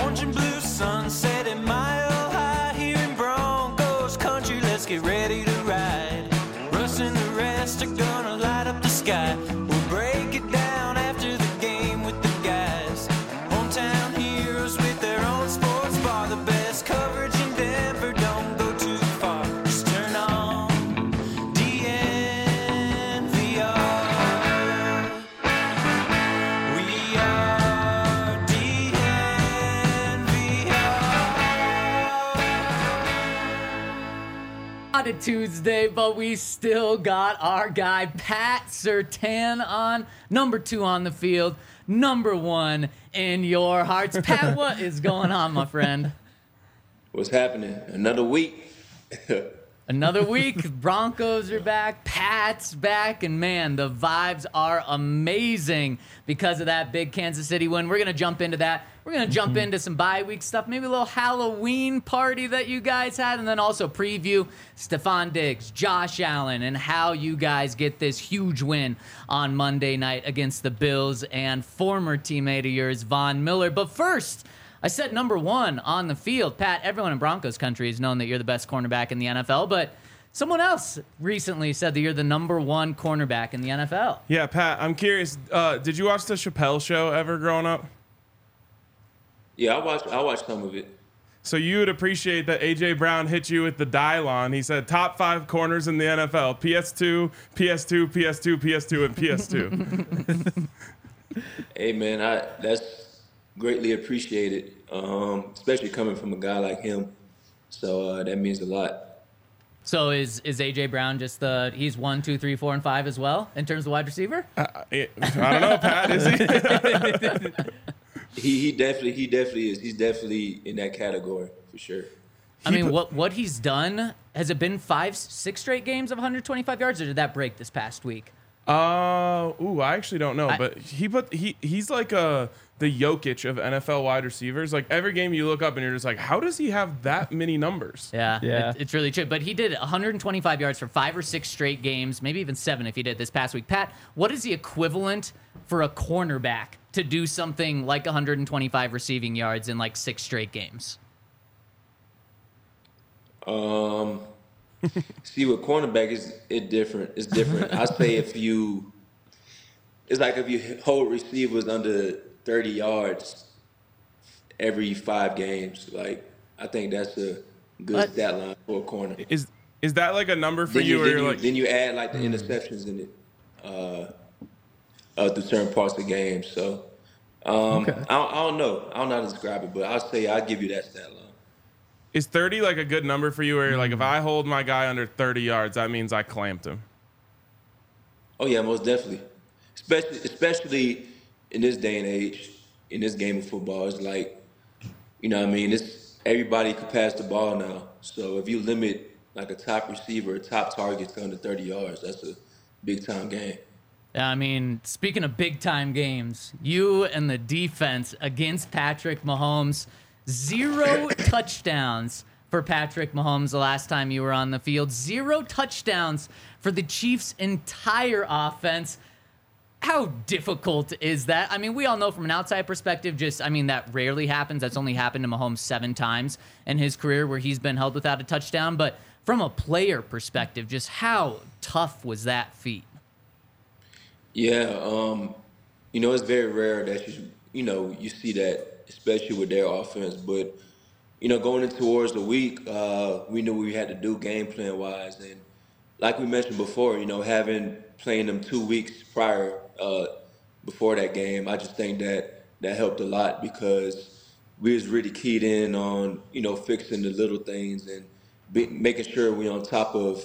orange and blue sunset at Mile High here in Broncos country. Let's get ready to ride. Russ and the rest are gonna light up the sky. We'll break it down after the game with the guys. Hometown heroes with their own sports bar. The best coverage in Denver, don't go too far. Just turn on DNVR. We are DNVR. Not a Tuesday, but we still got our guy Pat Surtain on, number 2 on the field, number 1 in your hearts. Pat, what is going on, my friend? What's happening? Another week. Another week, Broncos are back, Pat's back, and man, the vibes are amazing because of that big Kansas City win. We're going to jump into that. We're going to jump into some bye week stuff, maybe a little Halloween party that you guys had, and then also preview Stephon Diggs, Josh Allen, and how you guys get this huge win on Monday night against the Bills and former teammate of yours, Von Miller. But first, I said number 1 on the field. Pat, everyone in Broncos country has known that you're the best cornerback in the NFL, but someone else recently said that you're the number 1 cornerback in the NFL. Yeah, Pat, I'm curious. Did you watch the Chappelle Show ever growing up? Yeah, I watched some of it. So you would appreciate that A.J. Brown hit you with the Dylon. He said top 5 corners in the NFL: PS2, PS2, PS2, PS2, and PS2. Hey, man, that's greatly appreciated, especially coming from a guy like him. So that means a lot. So is A.J. Brown just he's 1, 2, 3, 4, and 5 as well in terms of wide receiver? I don't know, Pat. Is he? He definitely is. He's definitely in that category for sure. I mean, what he's done, has it been 5, 6 straight games of 125 yards, or did that break this past week? I actually don't know, but he's like the Jokic of NFL wide receivers. Like every game you look up and you're just like, how does he have that many numbers? Yeah. It's really true. But he did 125 yards for 5 or 6 straight games, maybe even 7 if he did this past week. Pat, what is the equivalent for a cornerback to do something like 125 receiving yards in like 6 straight games? See, with cornerback, it's different. It's different. I say it's like if you hold receivers under 30 yards every 5 games. Like, I think that's a good stat line for a corner. Is that like a number for you? Then you add like the interceptions in it through certain parts of the game. So okay. I don't know. I don't know how to describe it, but I'll give you that stat line. Is 30 like a good number for you where you're like, if I hold my guy under 30 yards, that means I clamped him? Oh, yeah, most definitely. Especially in this day and age, in this game of football. It's like, you know what I mean? Everybody can pass the ball now. So if you limit like a top receiver, top target to under 30 yards, that's a big-time game. Yeah, I mean, speaking of big-time games, you and the defense against Patrick Mahomes, 0 touchdowns for Patrick Mahomes the last time you were on the field. 0 touchdowns for the Chiefs' entire offense. How difficult is that? I mean, we all know from an outside perspective, that rarely happens. That's only happened to Mahomes 7 times in his career where he's been held without a touchdown. But from a player perspective, just how tough was that feat? Yeah, it's very rare that you see that, especially with their offense. But, going in towards the week, we knew what we had to do game plan wise. And like we mentioned before, playing them 2 weeks prior before that game, I just think that helped a lot because we was really keyed in on, fixing the little things and making sure we're on top of,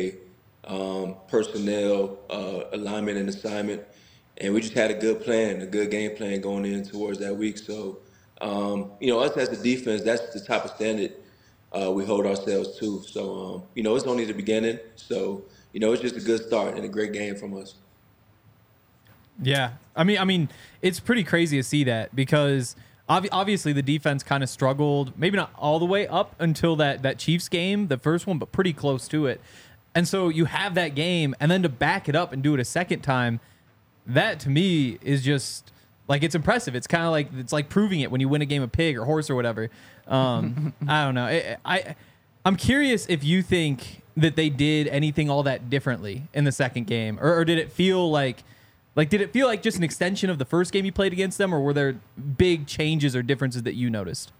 personnel, alignment and assignment. And we just had a good game plan going in towards that week. So, us as a defense, that's the type of standard we hold ourselves to. So, it's only the beginning. So, it's just a good start and a great game from us. Yeah. I mean, it's pretty crazy to see that because obviously the defense kind of struggled, maybe not all the way up until that Chiefs game, the first one, but pretty close to it. And so you have that game, and then to back it up and do it a second time, that to me is just Like, it's impressive. It's kind of like, it's like proving it when you win a game of pig or horse or whatever. I don't know. I'm curious if you think that they did anything all that differently in the second game, or did it feel like just an extension of the first game you played against them, or were there big changes or differences that you noticed?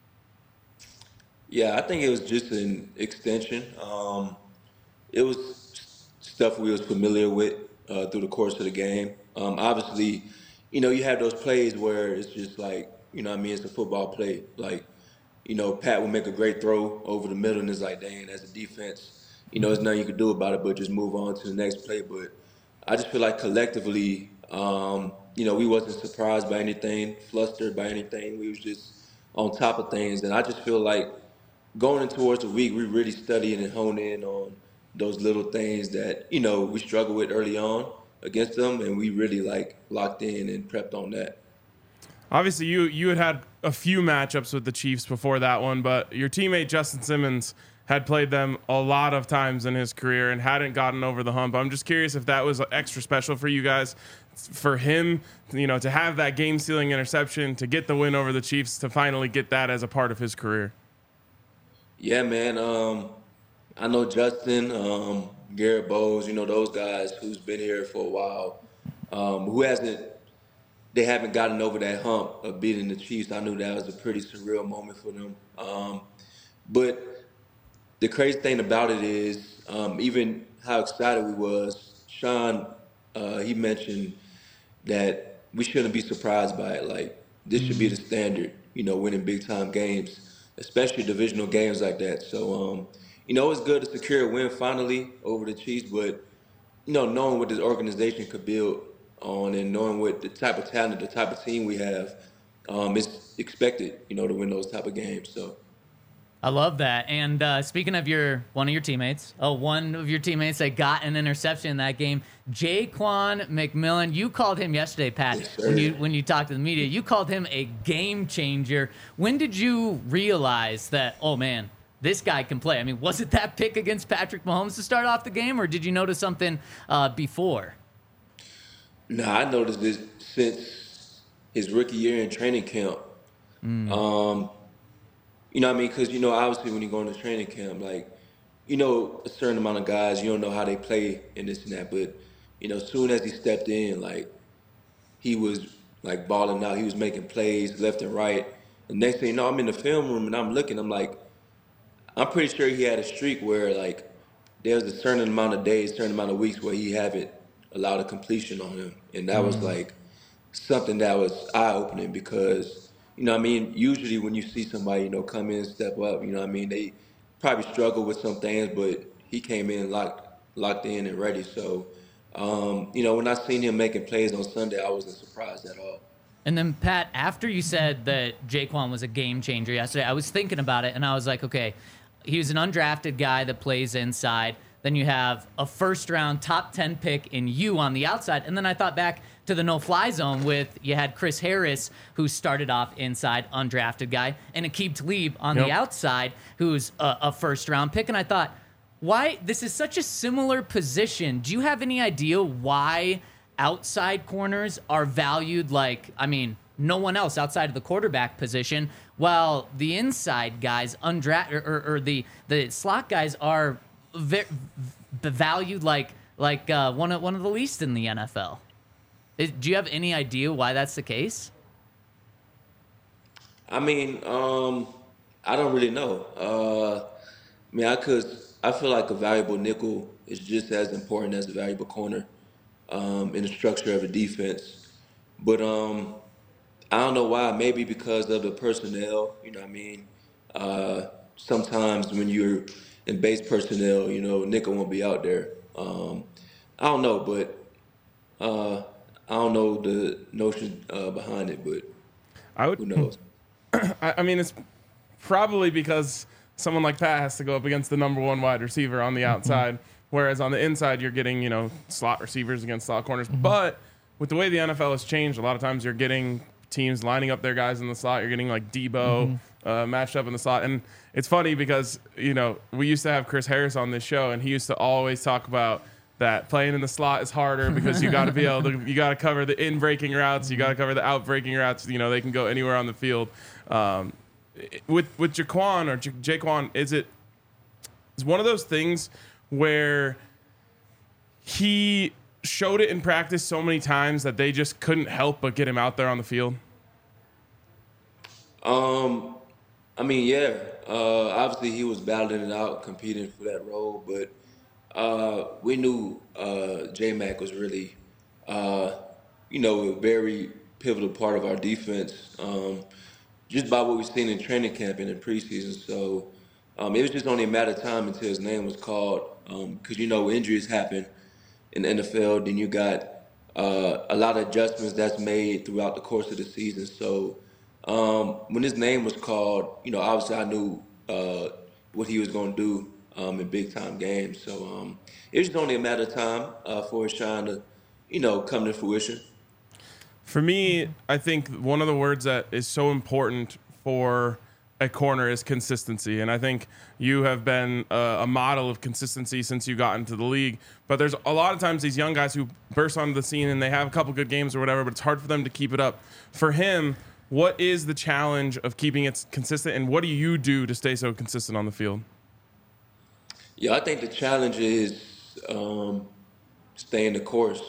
Yeah, I think it was just an extension. It was stuff we was familiar with through the course of the game. Obviously, you have those plays where it's just like, it's a football play. Like, Pat will make a great throw over the middle, and it's like, dang, as a defense, there's nothing you can do about it but just move on to the next play. But I just feel like collectively, we wasn't surprised by anything, flustered by anything. We was just on top of things, and I just feel like going in towards the week, we really studying and hone in on those little things that, we struggle with early on against them, and we really locked in and prepped on that. Obviously, you had a few matchups with the Chiefs before that one, but your teammate Justin Simmons had played them a lot of times in his career and hadn't gotten over the hump. I'm just curious if that was extra special for you guys, for him, to have that game-sealing interception, to get the win over the Chiefs, to finally get that as a part of his career. Yeah, man. I know Justin, Garrett Bowles, those guys who's been here for a while, they haven't gotten over that hump of beating the Chiefs. I knew that was a pretty surreal moment for them. But the crazy thing about it is, even how excited we was, Sean, he mentioned that we shouldn't be surprised by it. Like, this should be the standard, winning big time games, especially divisional games like that. So, it's good to secure a win finally over the Chiefs, but, knowing what this organization could build on and knowing what the type of talent, the type of team we have, it's expected, to win those type of games. So. I love that. And speaking of one of your teammates that got an interception in that game, Jaquan McMillan. You called him yesterday, Pat, yes, when you talked to the media. You called him a game changer. When did you realize that, oh man, this guy can play? I mean, was it that pick against Patrick Mahomes to start off the game, or did you notice something before? No, I noticed this since his rookie year in training camp. Because, obviously when you go into training camp, a certain amount of guys, you don't know how they play and this and that. But, as soon as he stepped in, he was, balling out. He was making plays left and right. And next thing you know, I'm in the film room and I'm looking. I'm pretty sure he had a streak where, there's a certain amount of days, certain amount of weeks where he haven't allowed a completion on him. And that was, something that was eye-opening because – usually when you see somebody, come in, step up, they probably struggle with some things, but he came in locked in and ready. So, when I seen him making plays on Sunday, I wasn't surprised at all. And then, Pat, after you said that Jaquan was a game changer yesterday, I was thinking about it, and I was like, okay, he was an undrafted guy that plays inside. Then you have a first-round top 10 pick in you on the outside. And then I thought back to the no-fly zone you had Chris Harris, who started off inside, undrafted guy, and Aqib Talib on the outside, who's a first-round pick. And I thought, why? This is such a similar position. Do you have any idea why outside corners are valued no one else outside of the quarterback position, while the inside guys, or the slot guys are valued like one of the least in the NFL? Do you have any idea why that's the case? I don't really know. I feel like a valuable nickel is just as important as a valuable corner in the structure of a defense. But I don't know why. Maybe because of the personnel. Sometimes when you're in base personnel, nickel won't be out there. I don't know, but I don't know the notion behind it, but who knows? It's probably because someone like Pat has to go up against the number one wide receiver on the outside, whereas on the inside you're getting, slot receivers against slot corners. But with the way the NFL has changed, a lot of times you're getting teams lining up their guys in the slot. You're getting Debo matched up in the slot. And it's funny because, we used to have Chris Harris on this show, and he used to always talk about that playing in the slot is harder because you got to be able to, you got to cover the in breaking routes, you got to cover the out breaking routes. You know, they can go anywhere on the field. With Jaquan or Jaquan, it's one of those things where he showed it in practice so many times that they just couldn't help but get him out there on the field. I mean, yeah. Obviously, he was battling it out, competing for that role, but we knew J-Mac was really, a very pivotal part of our defense, just by what we've seen in training camp and in preseason. So it was just only a matter of time until his name was called, because, injuries happen in the NFL. Then you got a lot of adjustments that's made throughout the course of the season. So when his name was called, obviously I knew what he was going to do in big-time games. So it was just only a matter of time for his shine to, come to fruition. For me, I think one of the words that is so important for a corner is consistency. And I think you have been a model of consistency since you got into the league. But there's a lot of times these young guys who burst onto the scene and they have a couple good games or whatever, but it's hard for them to keep it up. For him, what is the challenge of keeping it consistent, and what do you do to stay so consistent on the field? Yeah, I think the challenge is staying the course.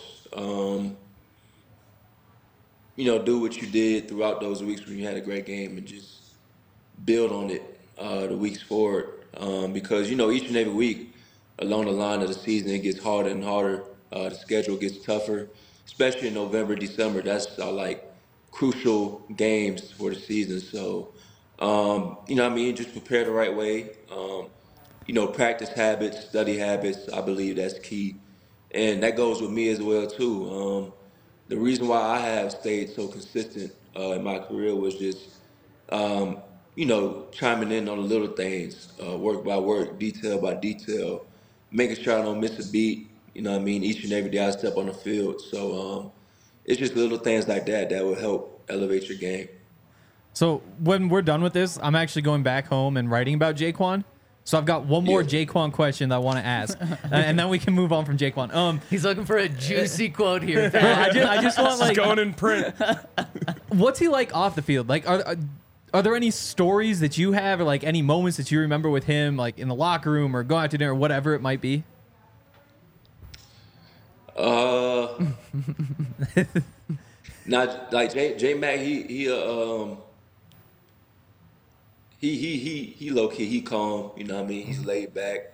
Do what you did throughout those weeks when you had a great game and just build on it the weeks forward. Because, each and every week along the line of the season, it gets harder and harder. The schedule gets tougher, especially in November, December. That's our, crucial games for the season. So, just prepare the right way. Practice habits, study habits, I believe that's key. And that goes with me as well, too. The reason why I have stayed so consistent in my career was just, chiming in on the little things, work by work, detail by detail, making sure I don't miss a beat, each and every day I step on the field. So it's just little things like that will help elevate your game. So when we're done with this, I'm actually going back home and writing about Jaquan. So I've got one more Jaquan question that I want to ask, and then we can move on from Jaquan. He's looking for a juicy quote here. Pat. I just want It's going in print. What's he like off the field? Like, are there any stories that you have, or like any moments that you remember with him, like in the locker room or going out to dinner, or whatever it might be? Not like J-Mac, he low key, he calm, he's laid back.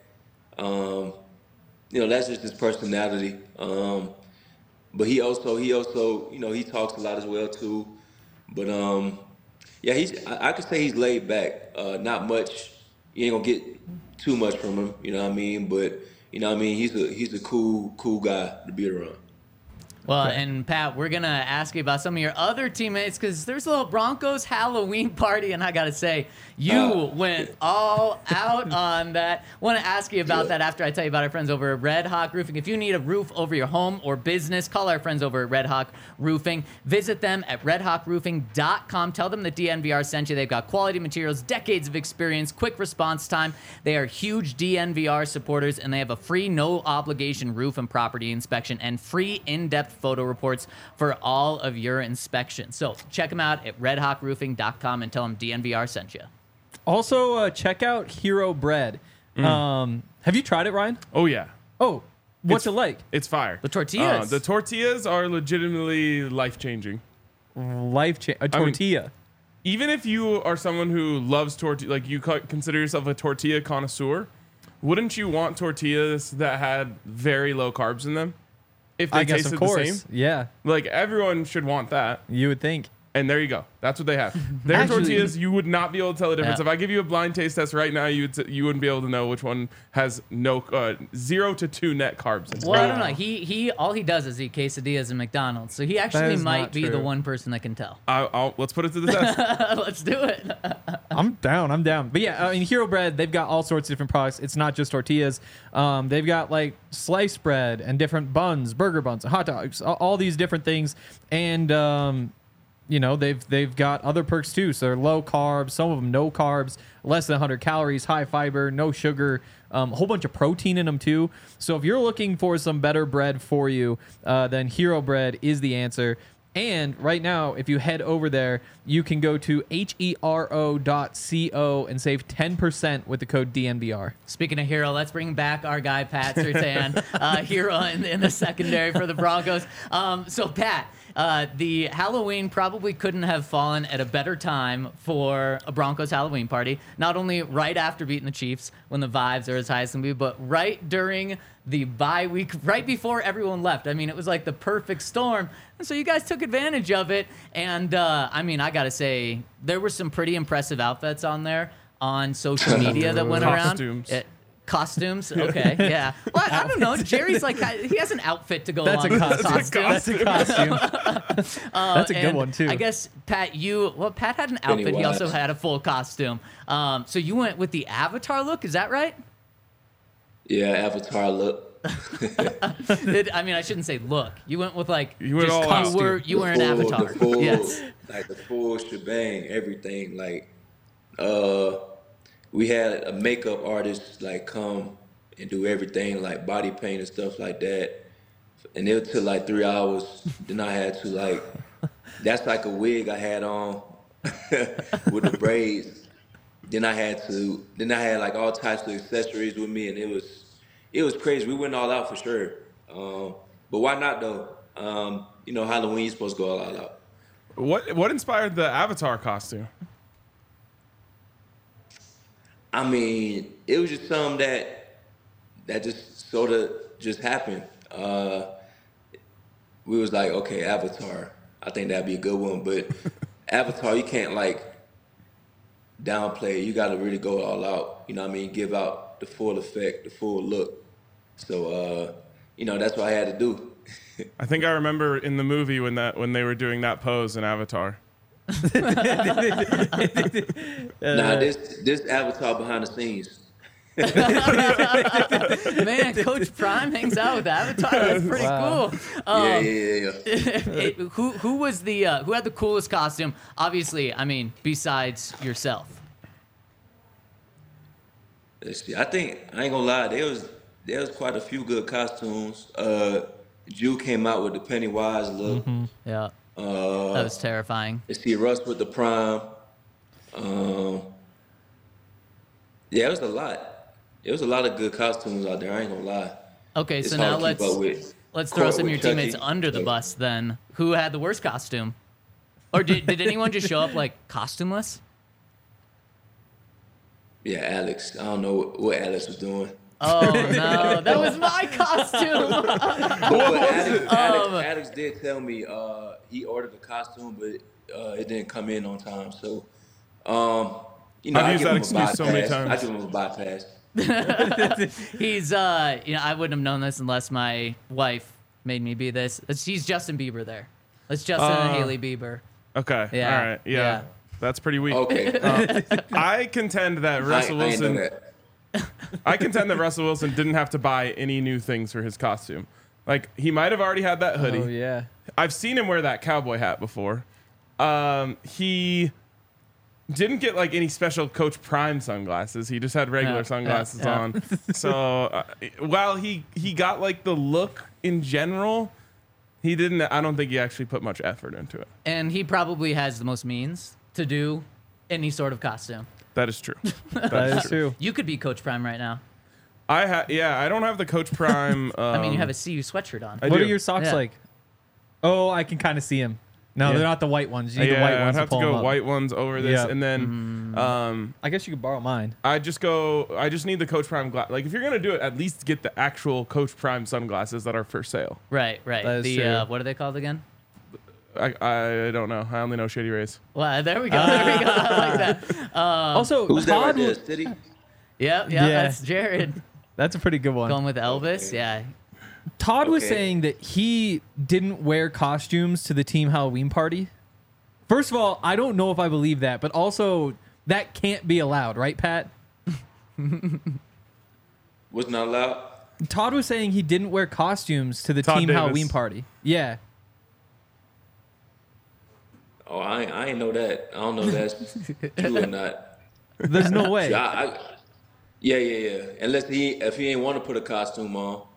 That's just his personality. But he also, he talks a lot as well too. But I could say he's laid back. Not much. You ain't gonna get too much from him, But he's a cool guy to be around. Well, and Pat, we're going to ask you about some of your other teammates because there's a little Broncos Halloween party, and I got to say, you went all out on that. Want to ask you about that after I tell you about our friends over at Red Hawk Roofing. If you need a roof over your home or business, call our friends over at Red Hawk Roofing. Visit them at redhawkroofing.com. Tell them the DNVR sent you. They've got quality materials, decades of experience, quick response time. They are huge DNVR supporters, and they have a free, no-obligation roof and property inspection and free in-depth photo reports for all of your inspections. So check them out at redhawkroofing.com and tell them DNVR sent you. Also, check out Hero Bread. Have you tried it, Ryan? Oh, yeah. Oh, what's it like? It's fire. The tortillas. The tortillas are legitimately life-changing. A tortilla. Even if you are someone who loves tortilla, like you consider yourself a tortilla connoisseur, wouldn't you want tortillas that had very low carbs in them? If they I guess, tasted of course. the same? Yeah. Like, everyone should want that. You would think. And there you go. That's what they have. Their Actually- tortillas, you would not be able to tell the difference. Yeah. If I give you a blind taste test right now, you wouldn't be able to know which one has 0 to 2 net carbs. It's Well, I great. don't know. He all he does is eat quesadillas in McDonald's, so he actually is might not be the true. one person that can tell. Let's put it to the test. Let's do it. I'm down. But yeah, Hero Bread, they've got all sorts of different products. It's not just tortillas. They've got like sliced bread and different buns, burger buns, hot dogs, all these different things. And they've got other perks too. So they're low carbs, some of them no carbs, less than 100 calories, high fiber, no sugar, a whole bunch of protein in them too. So if you're looking for some better bread for you, then Hero Bread is the answer. And right now, if you head over there, you can go to hero.co and save 10% with the code DNVR. Speaking of Hero, let's bring back our guy, Pat Surtain, Hero in the secondary for the Broncos. So, Pat, the Halloween probably couldn't have fallen at a better time for a Broncos Halloween party. Not only right after beating the Chiefs when the vibes are as high as can be, but right during the bye week, right before everyone left. I mean, it was like the perfect storm. And so you guys took advantage of it. And, I mean, I got to say, there were some pretty impressive outfits on there on social media that went around. Costumes? Okay, yeah. Well, I don't know. Jerry's like, he has an outfit to go along with his costume. That's a costume. That's a good one, too. I guess, Pat, Pat had an outfit. He also had a full costume. So you went with the Avatar look, is that right? Yeah, Avatar look. I mean, I shouldn't say look. You went with like, you went all out. You were an Avatar. Yes. Like the full shebang, everything. Like, we had a makeup artist like come and do everything, like body paint and stuff like that. And it took like 3 hours. Then I had to like, that's like a wig I had on with the braids. Then I had like all types of accessories with me, and it was crazy. We went all out for sure. But why not though? Halloween's supposed to go all out. What inspired the Avatar costume? I mean, it was just something that just sort of just happened. We was like, okay, Avatar. I think that'd be a good one, but Avatar, you can't like downplay it. You got to really go all out. You know what I mean? Give out the full effect, the full look. So, that's what I had to do. I think I remember in the movie when they were doing that pose in Avatar. This Avatar behind the scenes. Man, Coach Prime hangs out with Avatar. That's pretty cool. Yeah. Who was who had the coolest costume? Obviously, I mean, besides yourself. Let's see. I think I ain't gonna lie. There was quite a few good costumes. Jew came out with the Pennywise look. Mm-hmm. Yeah. That was terrifying. Let's see, Russ with the Prime. Yeah, it was a lot. It was a lot of good costumes out there. I ain't gonna lie. Okay, It's so now hard to keep up let's throw some of your Chucky. teammates under the bus then. Who had the worst costume? Or did anyone just show up like costumeless? Yeah, Alex. I don't know what Alex was doing. Oh no, that was my costume. But Alex did tell me he ordered the costume, but it didn't come in on time. So, I've used that excuse so many times. I give him a bypass. He's I wouldn't have known this unless my wife made me be this. She's Justin Bieber there. It's Justin and Haley Bieber. Okay. Yeah. All right. Yeah. That's pretty weak. Okay. I contend that Russell I ain't know Wilson. that. I contend that Russell Wilson didn't have to buy any new things for his costume. Like, he might have already had that hoodie. Oh, yeah. I've seen him wear that cowboy hat before. He didn't get like any special Coach Prime sunglasses. He just had regular sunglasses on. So while he got like the look in general, I don't think he actually put much effort into it. And he probably has the most means to do any sort of costume. That is true. That is true. You could be Coach Prime right now. I don't have the Coach Prime. I mean, you have a CU sweatshirt on. I What do. are your socks Yeah. like? Oh, I can kind of see them. No, Yeah. they're not the white ones. You need the white I'd ones have to to pull 'em go up. white ones over this, Yeah. and then I guess you could borrow mine. I just need the Coach Prime glass. Like, if you're gonna do it, at least get the actual Coach Prime sunglasses that are for sale. Right. That is The true. what are they called again? I don't know. I only know Shady Rays. Well, there we go. I like that. Also, Who's that right Todd, there, City? Yeah, Yeah. that's Jared. that's a pretty good one. Going with Elvis. Okay. Yeah. Todd was Okay. saying that he didn't wear costumes to the team Halloween party. First of all, I don't know if I believe that, but also that can't be allowed, right, Pat? Was not allowed. Todd was saying he didn't wear costumes to the Todd team Davis. Halloween party. Yeah. Oh, I ain't know that. I don't know if that's true or not. There's no way. Yeah. Unless if he ain't want to put a costume on.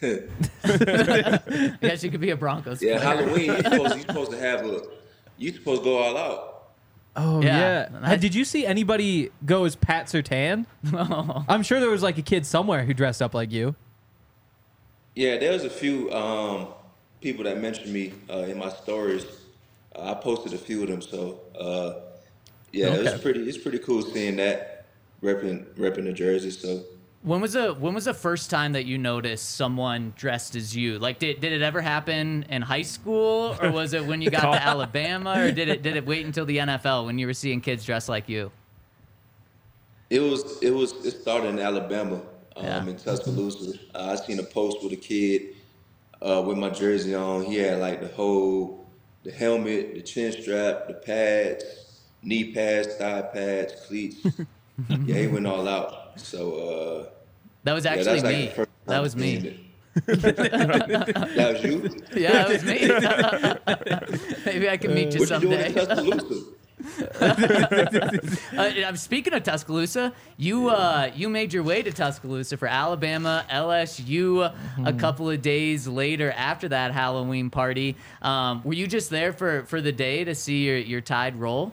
I guess you could be a Broncos Yeah, player. Halloween. You supposed to have a. You supposed to go all out. Oh Yeah. yeah. Did you see anybody go as Pat Surtain? I'm sure there was like a kid somewhere who dressed up like you. Yeah, there was a few people that mentioned me in my stories. I posted a few of them, so yeah, Okay. it's pretty cool seeing that repping the jersey. So When was the first time that you noticed someone dressed as you? Like, did it ever happen in high school, or was it when you got to Alabama, or did it wait until the NFL when you were seeing kids dressed like you? it started in Alabama, Yeah. in Tuscaloosa. I seen a post with a kid with my jersey on. He had like the helmet, the chin strap, the pads, knee pads, thigh pads, cleats. Yeah, he went all out. So That was yeah, actually that's like me. the first That time was seeing me. it. That was you. Yeah, that was me. Maybe I can meet you What you doing in someday. Tuscaloosa? I'm speaking of Tuscaloosa. You made your way to Tuscaloosa for Alabama, LSU. A couple of days later, after that Halloween party, were you just there for the day to see your Tide roll?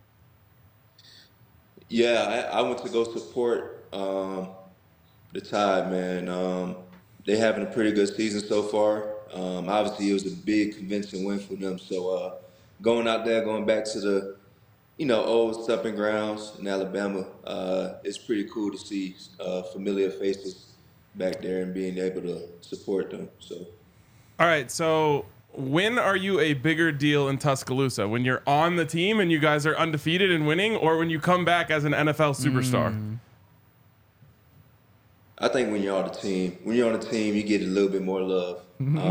Yeah, I went to go support the Tide, man. They having a pretty good season so far. Obviously, it was a big convincing win for them. So going out there, going back to the old stepping grounds in Alabama, it's pretty cool to see familiar faces back there and being able to support them. So All right, so when are you a bigger deal in Tuscaloosa? When you're on the team and you guys are undefeated and winning, or when you come back as an NFL superstar? I think when you're on the team, you get a little bit more love.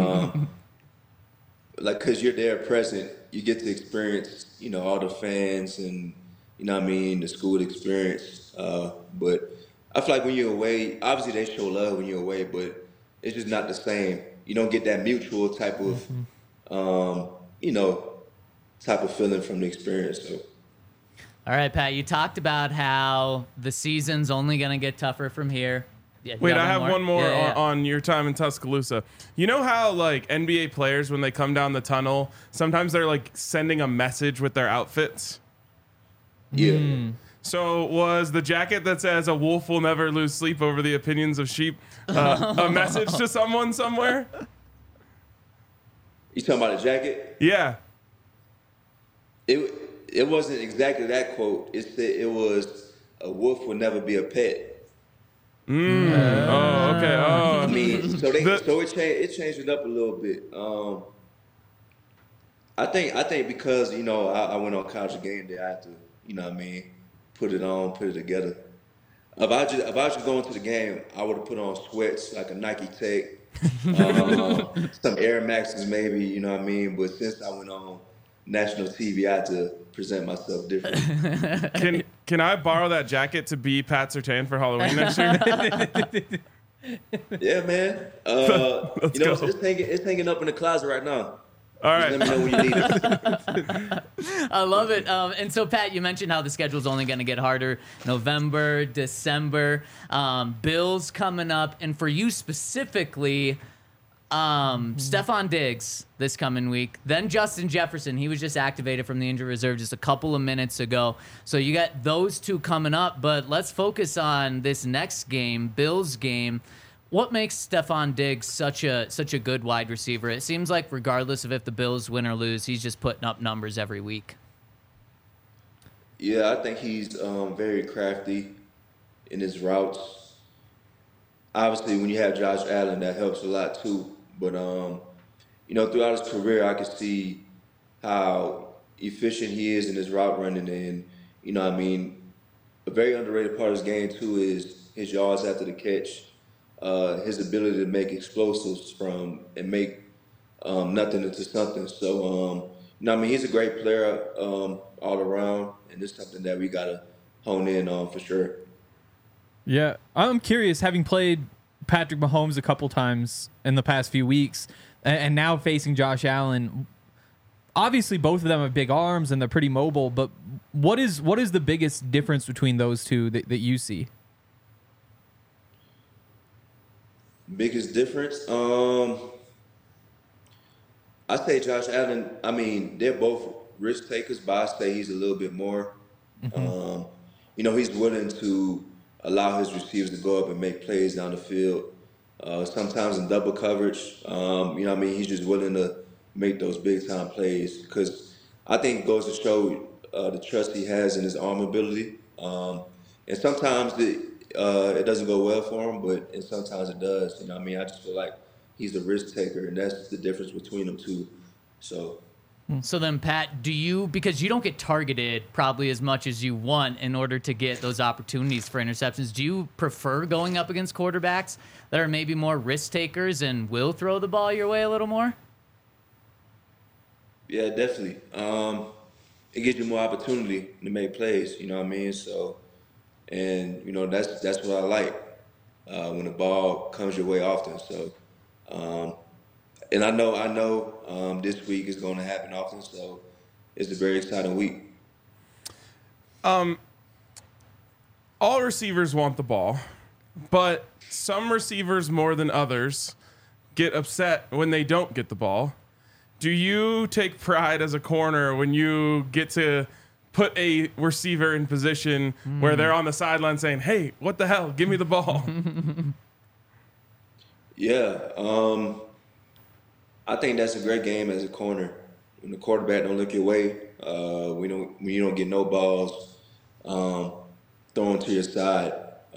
Like, cause you're there present, you get to experience, all the fans and, what I mean, the school experience. But I feel like when you're away, obviously they show love when you're away, but it's just not the same. You don't get that mutual type of, you know, type of feeling from the experience. So. All right, Pat, you talked about how the season's only going to get tougher from here. Yeah, you Wait, got I have one more Yeah. on your time in Tuscaloosa. You know how like NBA players, when they come down the tunnel, sometimes they're like sending a message with their outfits? Yeah. So was the jacket that says "A wolf will never lose sleep over the opinions of sheep" a message to someone somewhere? You talking about a jacket? Yeah. It wasn't exactly that quote. It said it was a wolf will never be a pet. Oh, okay. I Oh, mean, so it changed it up a little bit. I think because I went on College Game Day, I had to what I mean, put it on, put it together. If I just going to the game, I would have put on sweats like a Nike Tech, some Air Maxes maybe, you know what I mean. But since I went on national TV, I had to present myself different. can I borrow that jacket to be Pat Surtain for Halloween next year? Yeah, man. Go. It's hanging up in the closet right now. All Just right. let me know when you need it. I love it. And so, Pat, you mentioned how the schedule's only going to get harder. November, December, Bills coming up. And for you specifically, Stephon Diggs this coming week. Then Justin Jefferson. He was just activated from the injury reserve just a couple of minutes ago. So you got those two coming up. But let's focus on this next game, Bills game. What makes Stephon Diggs such a good wide receiver? It seems like regardless of if the Bills win or lose, he's just putting up numbers every week. Yeah, I think he's very crafty in his routes. Obviously, when you have Josh Allen, that helps a lot too. But throughout his career, I can see how efficient he is in his route running, and what I mean, a very underrated part of his game too is his yards after the catch. His ability to make explosives and make nothing into something. So, I mean, he's a great player all around, and it's something that we gotta hone in on for sure. Yeah, I'm curious, having played Patrick Mahomes a couple times in the past few weeks, and now facing Josh Allen, obviously both of them have big arms and they're pretty mobile, but what is the biggest difference between those two that you see? Biggest difference? I say Josh Allen. I mean, they're both risk takers, but I say he's a little bit more. He's willing to allow his receivers to go up and make plays down the field. Sometimes in double coverage. He's just willing to make those big time plays because I think it goes to show the trust he has in his arm ability. And sometimes it doesn't go well for him, and sometimes it does. I just feel like he's a risk taker, and that's the difference between them two. So then, Pat, because you don't get targeted probably as much as you want in order to get those opportunities for interceptions, do you prefer going up against quarterbacks that are maybe more risk takers and will throw the ball your way a little more? Yeah, definitely. It gives you more opportunity to make plays, you know what I mean? So, and, that's what I like when the ball comes your way often. So, and I know this week is going to happen often, so it's a very exciting week. All receivers want the ball, but some receivers more than others get upset when they don't get the ball. Do you take pride as a corner when you get to put a receiver in position where they're on the sideline saying, "Hey, what the hell? Give me the ball." Yeah, I think that's a great game as a corner. When the quarterback don't look your way, when you don't get no balls thrown to your side,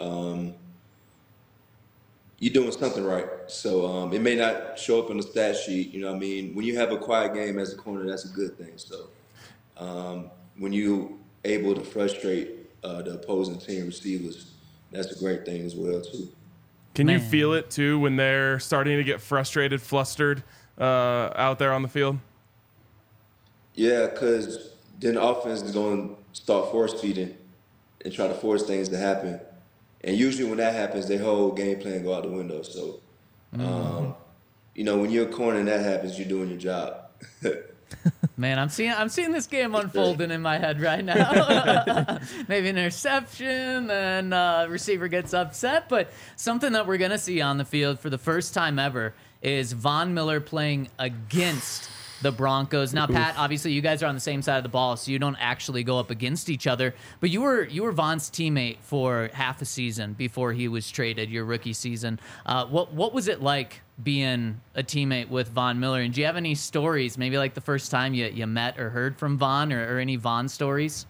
you're doing something right. So it may not show up in the stat sheet, you know what I mean? When you have a quiet game as a corner, that's a good thing. So when you're able to frustrate the opposing team receivers, that's a great thing as well, too. Can you feel it, too, when they're starting to get frustrated, flustered out there on the field? Yeah, because then the offense is going to start force feeding and try to force things to happen. And usually when that happens, their whole game plan go out the window. So, when you're a corner and that happens, you're doing your job. Man, I'm seeing this game unfolding in my head right now. Maybe an interception, and receiver gets upset. But something that we're going to see on the field for the first time ever is Von Miller playing against the Broncos. Now, Pat, obviously you guys are on the same side of the ball, so you don't actually go up against each other. But you were Von's teammate for half a season before he was traded, your rookie season. What was it like being a teammate with Von Miller? And do you have any stories, maybe like the first time you met or heard from Von, or any Von stories?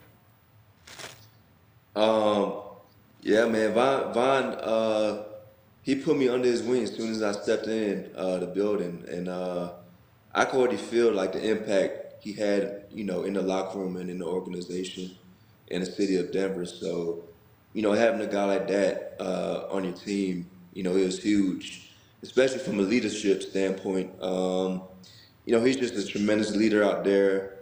Yeah, man, Von he put me under his wing as soon as I stepped in the building, and I could already feel like the impact he had, in the locker room and in the organization in the city of Denver. So, having a guy like that on your team, it was huge, especially from a leadership standpoint. He's just a tremendous leader out there,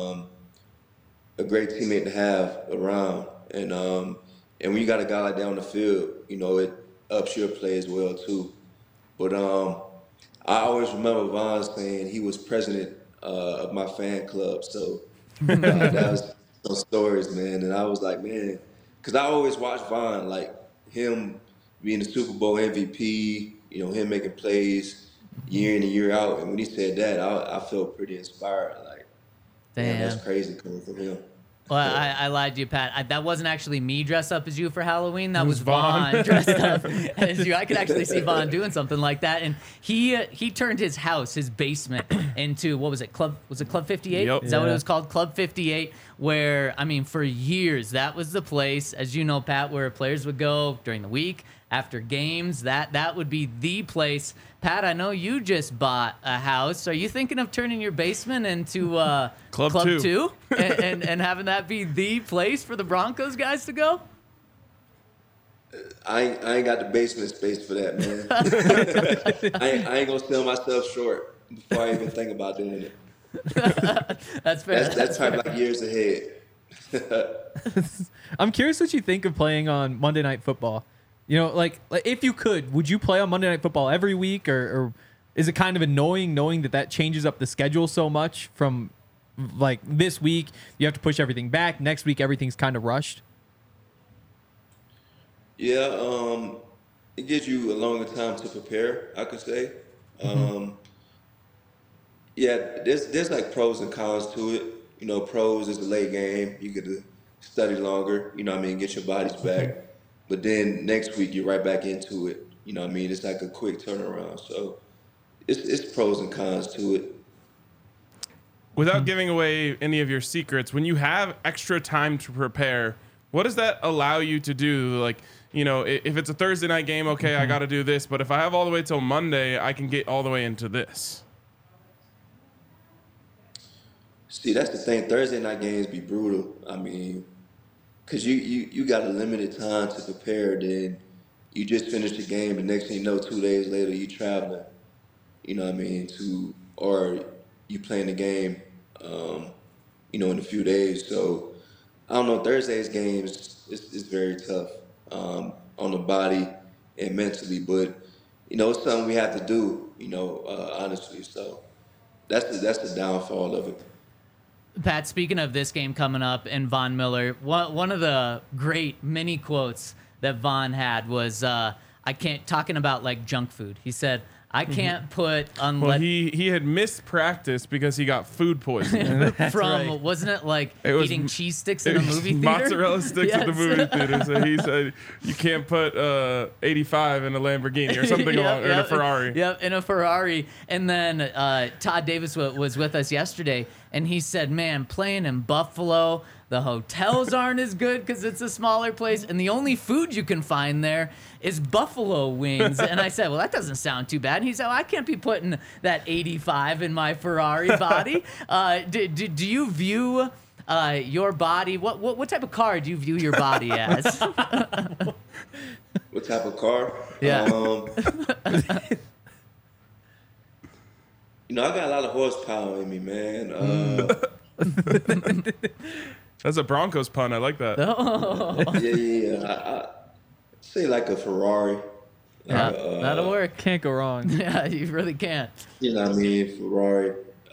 a great teammate to have around. And when you got a guy like that on the field, it ups your play as well, too. But I always remember Von saying he was president of my fan club. So that was some stories, man. And I was like, man, because I always watched Von, like him being the Super Bowl MVP, him making plays year in and year out. And when he said that, I felt pretty inspired. Like, damn, that's crazy coming from him. Well, I lied to you, Pat. That wasn't actually me dressed up as you for Halloween. That was Von dressed up as you. I could actually see Von doing something like that. And he turned his house, his basement, into, what was it, Club 58? Yep. Is that what it was called? Club 58, where, for years, that was the place, as you know, Pat, where players would go during the week, after games. That would be the place. Pat, I know you just bought a house. Are you thinking of turning your basement into Club 2 and having that be the place for the Broncos guys to go? I ain't got the basement space for that, man. I ain't gonna sell myself short before I even think about doing it. That's fair. That's probably like years ahead. I'm curious what you think of playing on Monday Night Football. Like if you could, would you play on Monday Night Football every week, or is it kind of annoying knowing that changes up the schedule so much from like this week you have to push everything back, next week everything's kind of rushed? Yeah, it gives you a longer time to prepare, I could say. Yeah, there's like pros and cons to it. You know, pros is a late game. You get to study longer, you know what I mean, get your bodies back. But then next week you're right back into it. You know what I mean? It's like a quick turnaround. So it's pros and cons to it. Without giving away any of your secrets, when you have extra time to prepare, what does that allow you to do? Like, you know, if it's a Thursday night game, okay, I got to do this. But if I have all the way till Monday, I can get all the way into this. See, that's the thing. Thursday night games be brutal. I mean, because you got a limited time to prepare. Then you just finish the game. The next thing you know, 2 days later, you traveling. You know what I mean? Or you playing the game, you know, in a few days. So, I don't know. Thursday's games is very tough on the body and mentally. But, you know, it's something we have to do, you know, honestly. So, that's the downfall of it. Pat, speaking of this game coming up and Von Miller, one of the great mini quotes that Von had was, talking about like junk food. He said, I can't put Well, he had missed practice because he got food poisoning. from, wasn't it like eating cheese sticks in It a was movie theater? mozzarella sticks at the Yes. movie theater. So he said you can't put 85 in a Lamborghini or something along, or in a Ferrari. Yep, in a Ferrari. And then Todd Davis was with us yesterday, and he said, man, playing in Buffalo, the hotels aren't as good because it's a smaller place, and the only food you can find there is buffalo wings. And I said, well, that doesn't sound too bad. And he said, well, I can't be putting that 85 in my Ferrari body. Do you view your body, what type of car do you view your body as? What type of car? Yeah. You know, I got a lot of horsepower in me, man. That's a Broncos pun. I like that. Yeah. I say like a Ferrari. Yeah, that'll work. Can't go wrong. Yeah, you really can't. You know what I mean? Ferrari.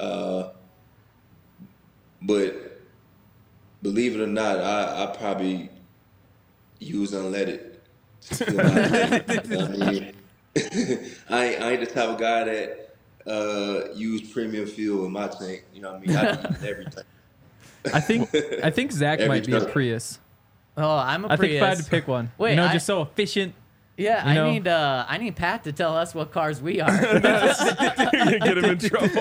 But believe it or not, I probably use unleaded. To fill my tank. You know what I mean? I ain't the type of guy that use premium fuel in my tank. You know what I mean? I use everything. I think Zach Every might be a truck. Prius. Oh, I'm a I think Prius. if I had to pick one, Wait, you know, I- just so efficient. Yeah, You know? I need Pat to tell us what cars we are, You're gonna get him in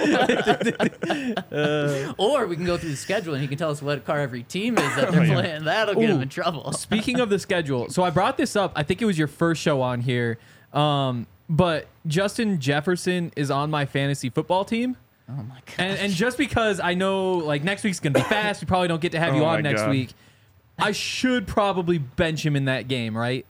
trouble. or we can go through the schedule and he can tell us what car every team is that they're playing. That'll get him Ooh. in trouble. Speaking of the schedule, so I brought this up. I think it was your first show on here, but Justin Jefferson is on my fantasy football team. Oh my god! And just because I know like next week's gonna be fast, we probably don't get to have you Oh on my next God. week. I should probably bench him in that game, right?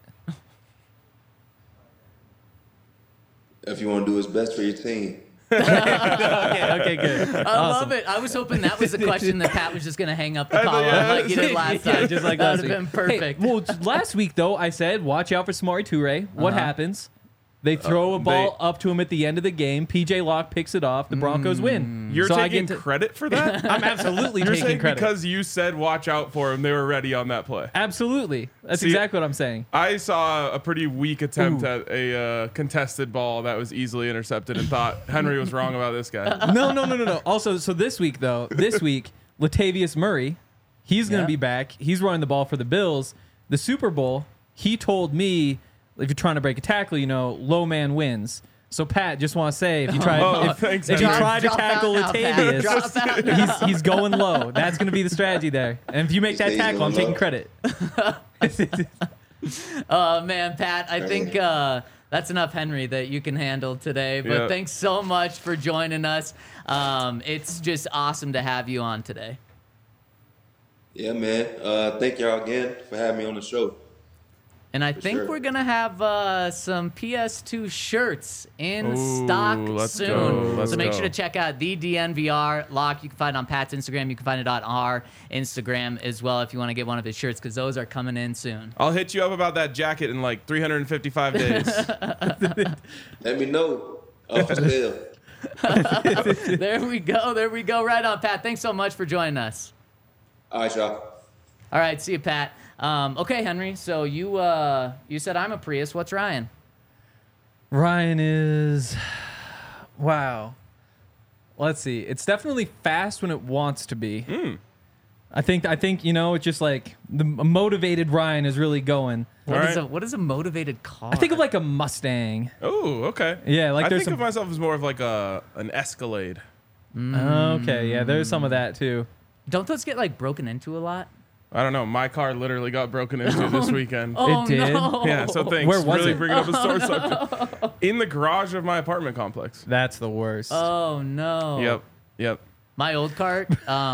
If you want to do what's best for your team. Okay, good. I love it. I was hoping that was the question that Pat was just gonna hang up the call on yeah. like you did last Yeah, time. just like that last would have been week. perfect. Hey, well, last week though, I said watch out for Samori Toure. What happens? They throw a ball up to him at the end of the game. PJ Locke picks it off. The Broncos win. You're So I taking get to- credit for that? I'm absolutely You're taking saying credit. because you said watch out for him, they were ready on that play. Absolutely. That's See- exactly what I'm saying. I saw a pretty weak attempt Ooh. at a contested ball that was easily intercepted and thought Henry was wrong about this guy. No. Also, so this week, Latavius Murray, he's going to Yeah. be back. He's running the ball for the Bills. The Super Bowl, he told me, if you're trying to break a tackle, you know, low man wins. So, Pat, just want to say, if you try, thanks, if you Henry. try to Drop tackle out now, Pat. Drop out Latavius, now. he's going low. That's going to be the strategy there. And if you make that He's tackle, I'm going taking low. credit. Oh man, Pat, I think that's enough Henry that you can handle today. But Yeah. thanks so much for joining us. It's just awesome to have you on today. Yeah, man. Thank y'all again for having me on the show. And I think sure. we're going to have some PS2 shirts in Ooh, stock let's soon. go, let's So make go. sure to check out the DNVR lock. You can find it on Pat's Instagram. You can find it on our Instagram as well if you want to get one of his shirts because those are coming in soon. I'll hit you up about that jacket in like 355 days. Let me know. Oh, for sale. There we go. There we go. Right on, Pat. Thanks so much for joining us. All right, y'all. All right, see you, Pat. Okay, Henry. So you said I'm a Prius. What's Ryan? Ryan is, wow. Let's see. It's definitely fast when it wants to be. I think it's just like the motivated Ryan is really going. What is a motivated car? I think of like a Mustang. Oh, okay. Yeah, like I there's think some. of myself as more of like an Escalade. Okay, yeah, there's some of that too. Don't those get like broken into a lot? I don't know. My car literally got broken into this weekend. Oh, It did? no. Yeah, so thanks. Where was really it? bringing up a sore subject. In the garage of my apartment complex. That's the worst. Oh no. Yep. My old car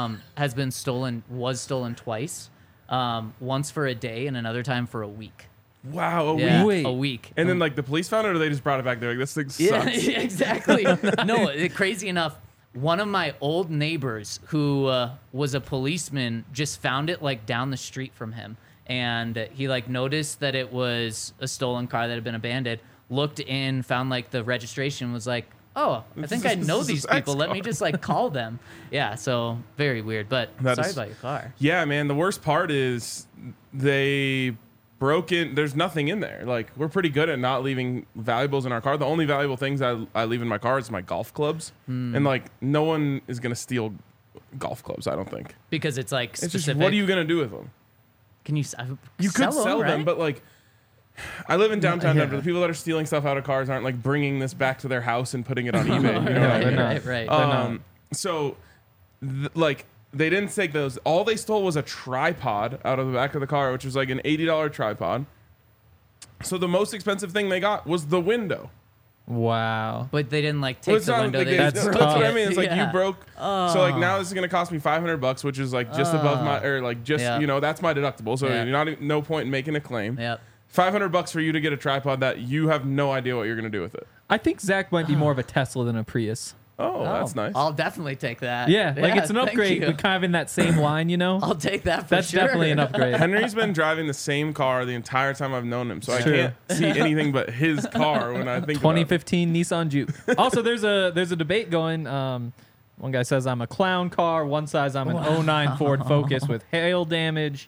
was stolen twice. Once for a day and another time for a week. Wow, a Yeah, week. Wait. a week. And then like the police found it, or they just brought it back. They're like, this thing Yeah, sucks. exactly. No, crazy enough, one of my old neighbors who was a policeman just found it like down the street from him. And he like noticed that it was a stolen car that had been abandoned, looked in, found like the registration, was like, oh, I think I know these people. Let me just like call them. Yeah, so very weird. But sorry about your car. Yeah, man. The worst part is they broke in. There's nothing in there. Like, we're pretty good at not leaving valuables in our car. The only valuable things I leave in my car is my golf clubs. And like, no one is gonna steal golf clubs, I don't think. Because it's like It's specific. just, what are you gonna do with them? Can you? You could sell them, right? but like, I live in downtown Yeah. Denver. The people that are stealing stuff out of cars aren't like bringing this back to their house and putting it on eBay. You know what I they're mean? not. Right. So, like, they didn't take those. All they stole was a tripod out of the back of the car, which was like an $80 tripod. So the most expensive thing they got was the window. Wow. But they didn't like Well, take it's the not window. like They That's just that's broke what I it. mean. It's like you Yeah. broke. So like now this is gonna cost me $500, which is like just above my, or like just Yeah. that's my deductible. So Yeah. you're not even, no point in making a claim. Yep. $500 for you to get a tripod that you have no idea what you're gonna do with it. I think Zach might be more of a Tesla than a Prius. Oh, that's nice. I'll definitely take that. Yeah, like it's an thank upgrade, you. but kind of in that same line, you know? I'll take that for That's sure. definitely an upgrade. Henry's been driving the same car the entire time I've known him, so I True. can't see anything but his car when I think about it. 2015 Nissan Juke. Also, there's a debate going. One guy says I'm a clown car. One says I'm an 09 Ford Focus with hail damage.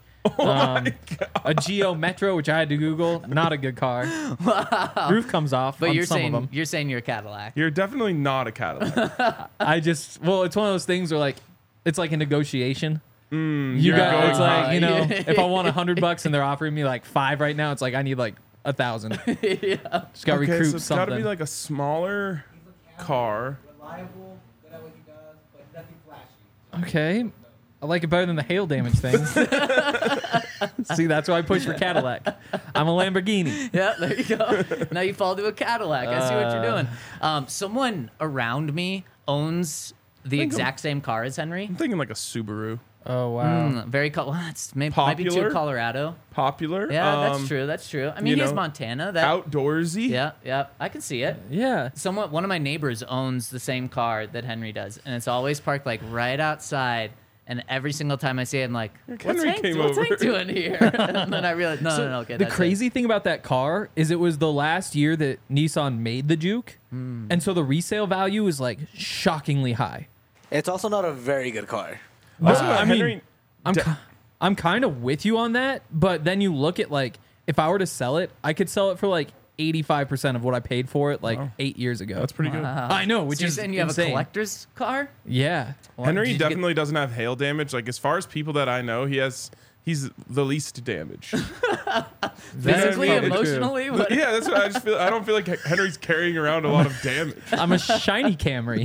A Geo Metro, which I had to Google. Not a good car. Roof comes off But on you're some of them. saying you're a Cadillac. You're definitely not a Cadillac. It's one of those things where like it's like a negotiation. You you're got going it's like high. if I want $100 and they're offering me like $5 right now, it's like I need like 1,000. Yeah. Just got to Okay, recruit so it's got to something. be like a smaller car. Reliable, good at what he does, but nothing flashy. Okay. I like it better than the hail damage thing. See, that's why I push for Cadillac. I'm a Lamborghini. Yeah, there you go. Now you fall to a Cadillac. I see what you're doing. Someone around me owns the exact same car as Henry. I'm thinking like a Subaru. Oh, wow. Very well, that's might be too Popular? Colorado. Popular. Yeah, that's true. That's true. I mean, you he has know, Montana. That Outdoorsy. yeah, I can see it. Yeah. One of my neighbors owns the same car that Henry does, and it's always parked like right outside. And every single time I see it, I'm like, what's Henry Hank, came what's over. Hank doing here? And then I realized, no, okay. The that's crazy thing about that car is it was the last year that Nissan made the Juke. And so the resale value is like shockingly high. It's also not a very good car. Also, I mean, Henry. I'm kind of with you on that, but then you look at like if I were to sell it, I could sell it for like 85% of what I paid for it like 8 years ago. That's pretty good. I know, which So you're is saying you have insane. a collector's car? Yeah. Henry did you get- definitely doesn't have hail damage. Like as far as people that I know, he's the least damaged. Physically, probably true. emotionally? What? Yeah, that's what I just feel. I don't feel like Henry's carrying around a lot of damage. I'm a shiny Camry.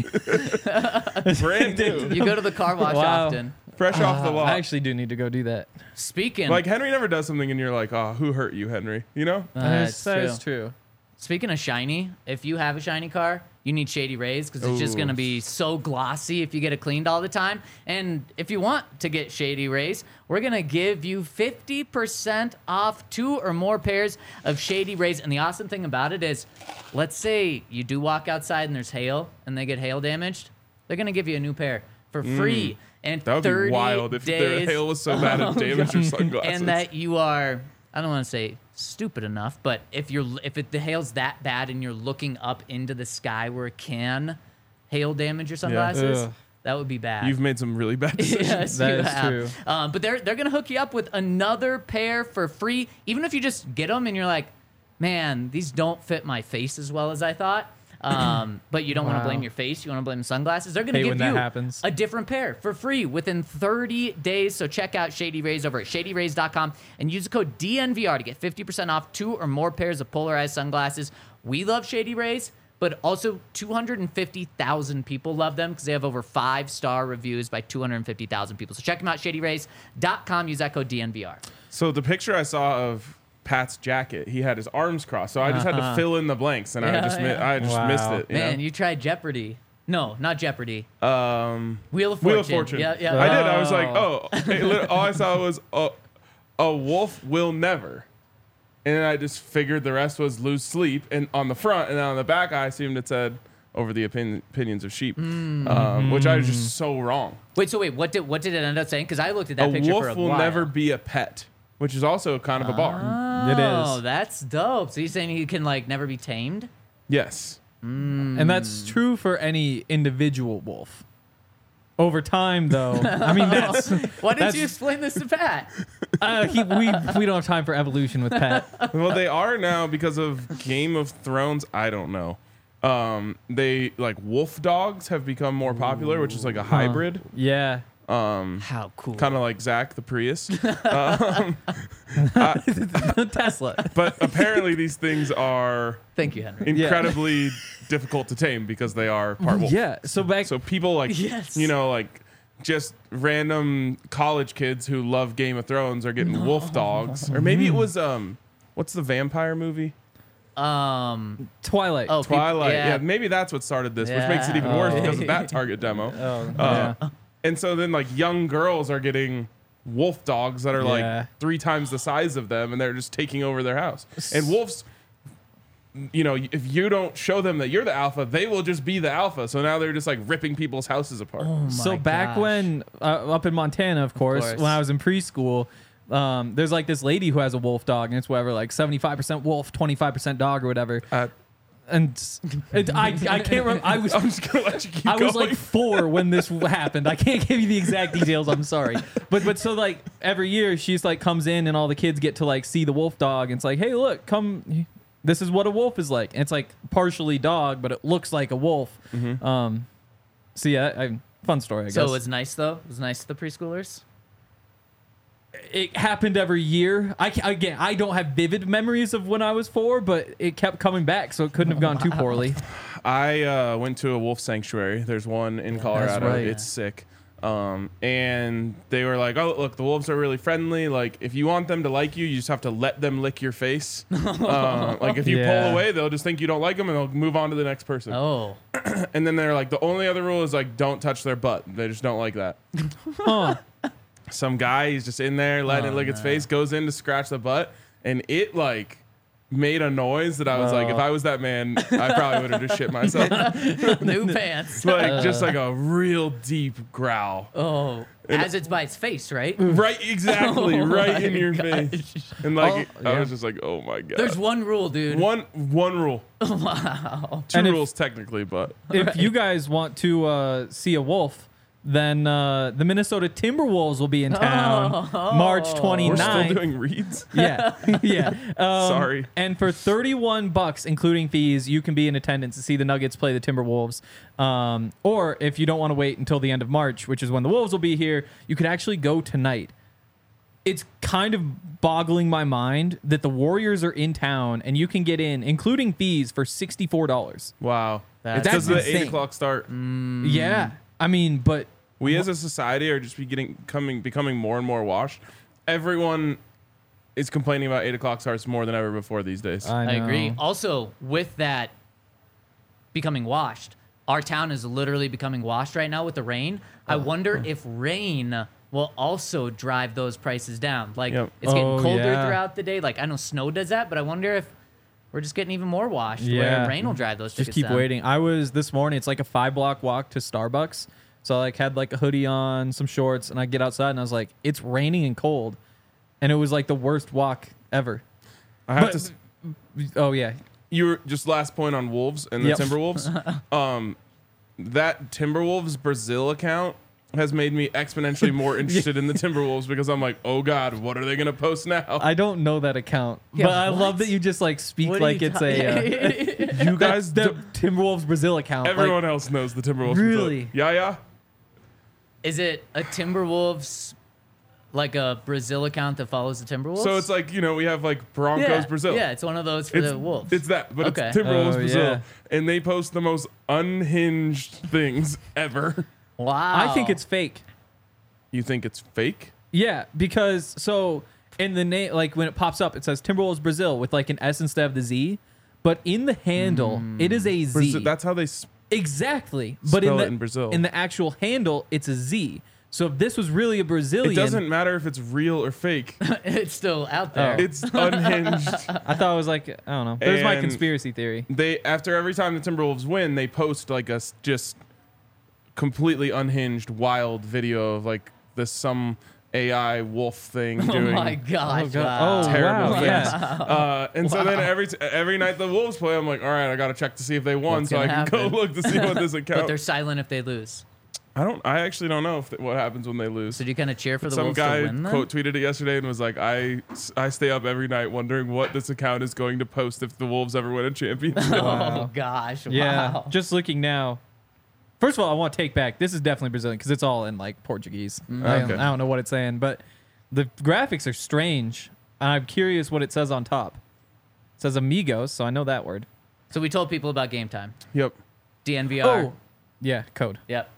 Brand new, You go to the car wash Wow. often. fresh off the lot. I actually do need to go do that. Speaking, Like Henry never does something, and you're like, "Oh, who hurt you, Henry?" You know? that's that true. is true. Speaking of shiny, if you have a shiny car, you need Shady Rays because it's just Ooh. going to be so glossy if you get it cleaned all the time. And if you want to get Shady Rays, we're going to give you 50% off 2 or more pairs of Shady Rays. And the awesome thing about it is, let's say you do walk outside and there's hail and they get hail damaged, they're going to give you a new pair for free. And That would 30 be wild if days. their hail was so bad it damaged your sunglasses. And that you are I don't want to say stupid enough, but if it hails that bad and you're looking up into the sky where it can hail damage your sunglasses, Ugh. that would be bad. You've made some really bad decisions. Yes, That you is have. true. But they're gonna hook you up with another pair for free, even if you just get them and you're like, man, these don't fit my face as well as I thought. But you don't want to Wow. blame your face. You want to blame sunglasses. They're gonna Hate give when that you happens. a different pair for free within 30 days. So check out Shady Rays over at ShadyRays.com and use the code DNVR to get 50% off 2 or more pairs of polarized sunglasses. We love Shady Rays, but also 250,000 people love them because they have over 5-star reviews by 250,000 people. So check them out, ShadyRays.com. Use that code DNVR. So the picture I saw of Pat's jacket, he had his arms crossed. So I just had to fill in the blanks, and I just Wow. missed it. Man, you tried Jeopardy. No, not Jeopardy. Wheel Wheel of Fortune. of Fortune. Yeah, yeah. I did. I was like, all I saw was a wolf will never. And then I just figured the rest was lose sleep. And on the front and then on the back, I assumed it said over the opinions of sheep, which I was just so wrong. Wait, what did it end up saying? Because I looked at that A picture for wolf a will while. never be a pet, which is also kind of a bar. It Oh, is. that's dope. So you're saying he can like never be tamed? Yes. And that's true for any individual wolf. Over time, though, I mean, that's Why didn't That's- you explain this to Pat? we don't have time for evolution with Pat. Well, they are now because of Game of Thrones. I don't know. They like wolf dogs have become more popular, which is like a hybrid, Yeah. How cool. kind of like Zach the Prius. Tesla. But apparently, these things are Thank you, Henry. incredibly difficult to tame because they are part wolf. Yeah. So back. So people like Yes. like just random college kids who love Game of Thrones are getting wolf dogs, or maybe it was what's the vampire movie? Twilight. Oh, Twilight. yeah. Yeah, maybe that's what started this, which makes it even worse Yeah. because of that target demo. Yeah. And so then like young girls are getting wolf dogs that are Yeah. like 3 times the size of them, and they're just taking over their house. And wolves, if you don't show them that you're the alpha, they will just be the alpha. So now they're just like ripping people's houses apart. So my back gosh. when up in Montana, of course, when I was in preschool, there's like this lady who has a wolf dog, and it's whatever, like 75% wolf, 25% dog, or whatever. And I can't remember. I'm just gonna let you keep I going. was like 4 when this happened. I can't give you the exact details. I'm sorry. But so like every year she's like comes in and all the kids get to like see the wolf dog. And it's like, hey, look, come. This is what a wolf is like. And it's like partially dog, but it looks like a wolf. So yeah, fun story, I guess. So it was nice though. It was nice to the preschoolers. It happened every year. I don't have vivid memories of when I was 4, but it kept coming back, so it couldn't have gone too poorly. I went to a wolf sanctuary. There's one in Colorado. right. It's sick. And they were like, oh, look, the wolves are really friendly. Like, if you want them to like you just have to let them lick your face. Like, if you Yeah. pull away, they'll just think you don't like them and they'll move on to the next person. Oh, And then they're like, the only other rule is, like, don't touch their butt. They just don't like that. Huh. Some guy, he's just in there letting it lick its face, goes in to scratch the butt, and it, like, made a noise that I was like, if I was that man, I probably would have just shit myself. new pants. Like, just like a real deep growl. Oh, as it's by its face, right? Right, exactly, Oh right my in your gosh. face. And like, Oh, I yeah. was just like, oh my god. There's one rule, dude. one rule. Wow. Two And if- rules technically, but If you guys want to see a wolf, then the Minnesota Timberwolves will be in town March we're 29th. still doing reads. Yeah, yeah. Sorry. And for $31, including fees, you can be in attendance to see the Nuggets play the Timberwolves. Or if you don't want to wait until the end of March, which is when the Wolves will be here, you could actually go tonight. It's kind of boggling my mind that the Warriors are in town and you can get in, including fees, for $64. Wow. That's It's because of the insane. 8 o'clock start. Yeah, I mean, but We as a society are just becoming more and more washed. Everyone is complaining about 8 o'clock starts more than ever before these days. I agree. know. Also, with that becoming washed, our town is literally becoming washed right now with the rain. I wonder if rain will also drive those prices down. Like, Yep. it's getting Oh, colder yeah. throughout the day. Like, I know snow does that, but I wonder if we're just getting even more washed where Yeah. rain will drive those Just tickets keep down. waiting. I was this morning. It's like a 5-block walk to Starbucks. So I like had like a hoodie on, some shorts, and I get outside and I was like, it's raining and cold, and it was like the worst walk ever. I have But- to. Oh yeah, You were just last point on Wolves and the Yep. Timberwolves. That Timberwolves Brazil account has made me exponentially more interested in the Timberwolves because I'm like, oh God, what are they gonna post now? I don't know that account, Yeah, but I what? love that you just like speak What are like you it's ta- a you guys, the do- Timberwolves Brazil account. everyone else knows the Timberwolves. Really? Brazil. Yeah. Is it a Timberwolves, like a Brazil account that follows the Timberwolves? So it's like, we have like Broncos yeah, Brazil. Yeah, it's one of those for the Wolves. It's that, but Okay. it's Timberwolves Oh, Brazil, yeah. and they post the most unhinged things ever. Wow. I think it's fake. You think it's fake? Yeah, because so in the name, like when it pops up, it says Timberwolves Brazil with like an S instead of the Z, but in the handle, it is a Z. Brazil, that's how they. Exactly, but Spell it in Brazil. in the actual handle, it's a Z. So if this was really a Brazilian, It doesn't matter if it's real or fake. it's still out there. It's unhinged. I thought it was like I don't know. There's my And- conspiracy theory. They after every time the Timberwolves win, they post like a just completely unhinged, wild video of like some AI wolf thing Oh doing my gosh! Oh, God. Wow. Oh, terrible wow, things. yeah. And so then every night the Wolves play, I'm like, all right, I got to check to see if they won, What's so I gonna can go happen? look to see what this But account. they're silent if they lose. I actually don't know what happens when they lose. So do you kind of cheer for the Some Wolves guy to win then? quote tweeted it yesterday and was like, I stay up every night wondering what this account is going to post if the Wolves ever win a championship. Oh gosh! Yeah, Wow. just looking now. First of all, I want to take back. This is definitely Brazilian because it's all in like Portuguese. I Okay. don't know what it's saying, but the graphics are strange. I'm curious what it says on top. It says amigos, so I know that word. So we told people about Game Time. Yep. DNVR. Oh, yeah, code. Yep.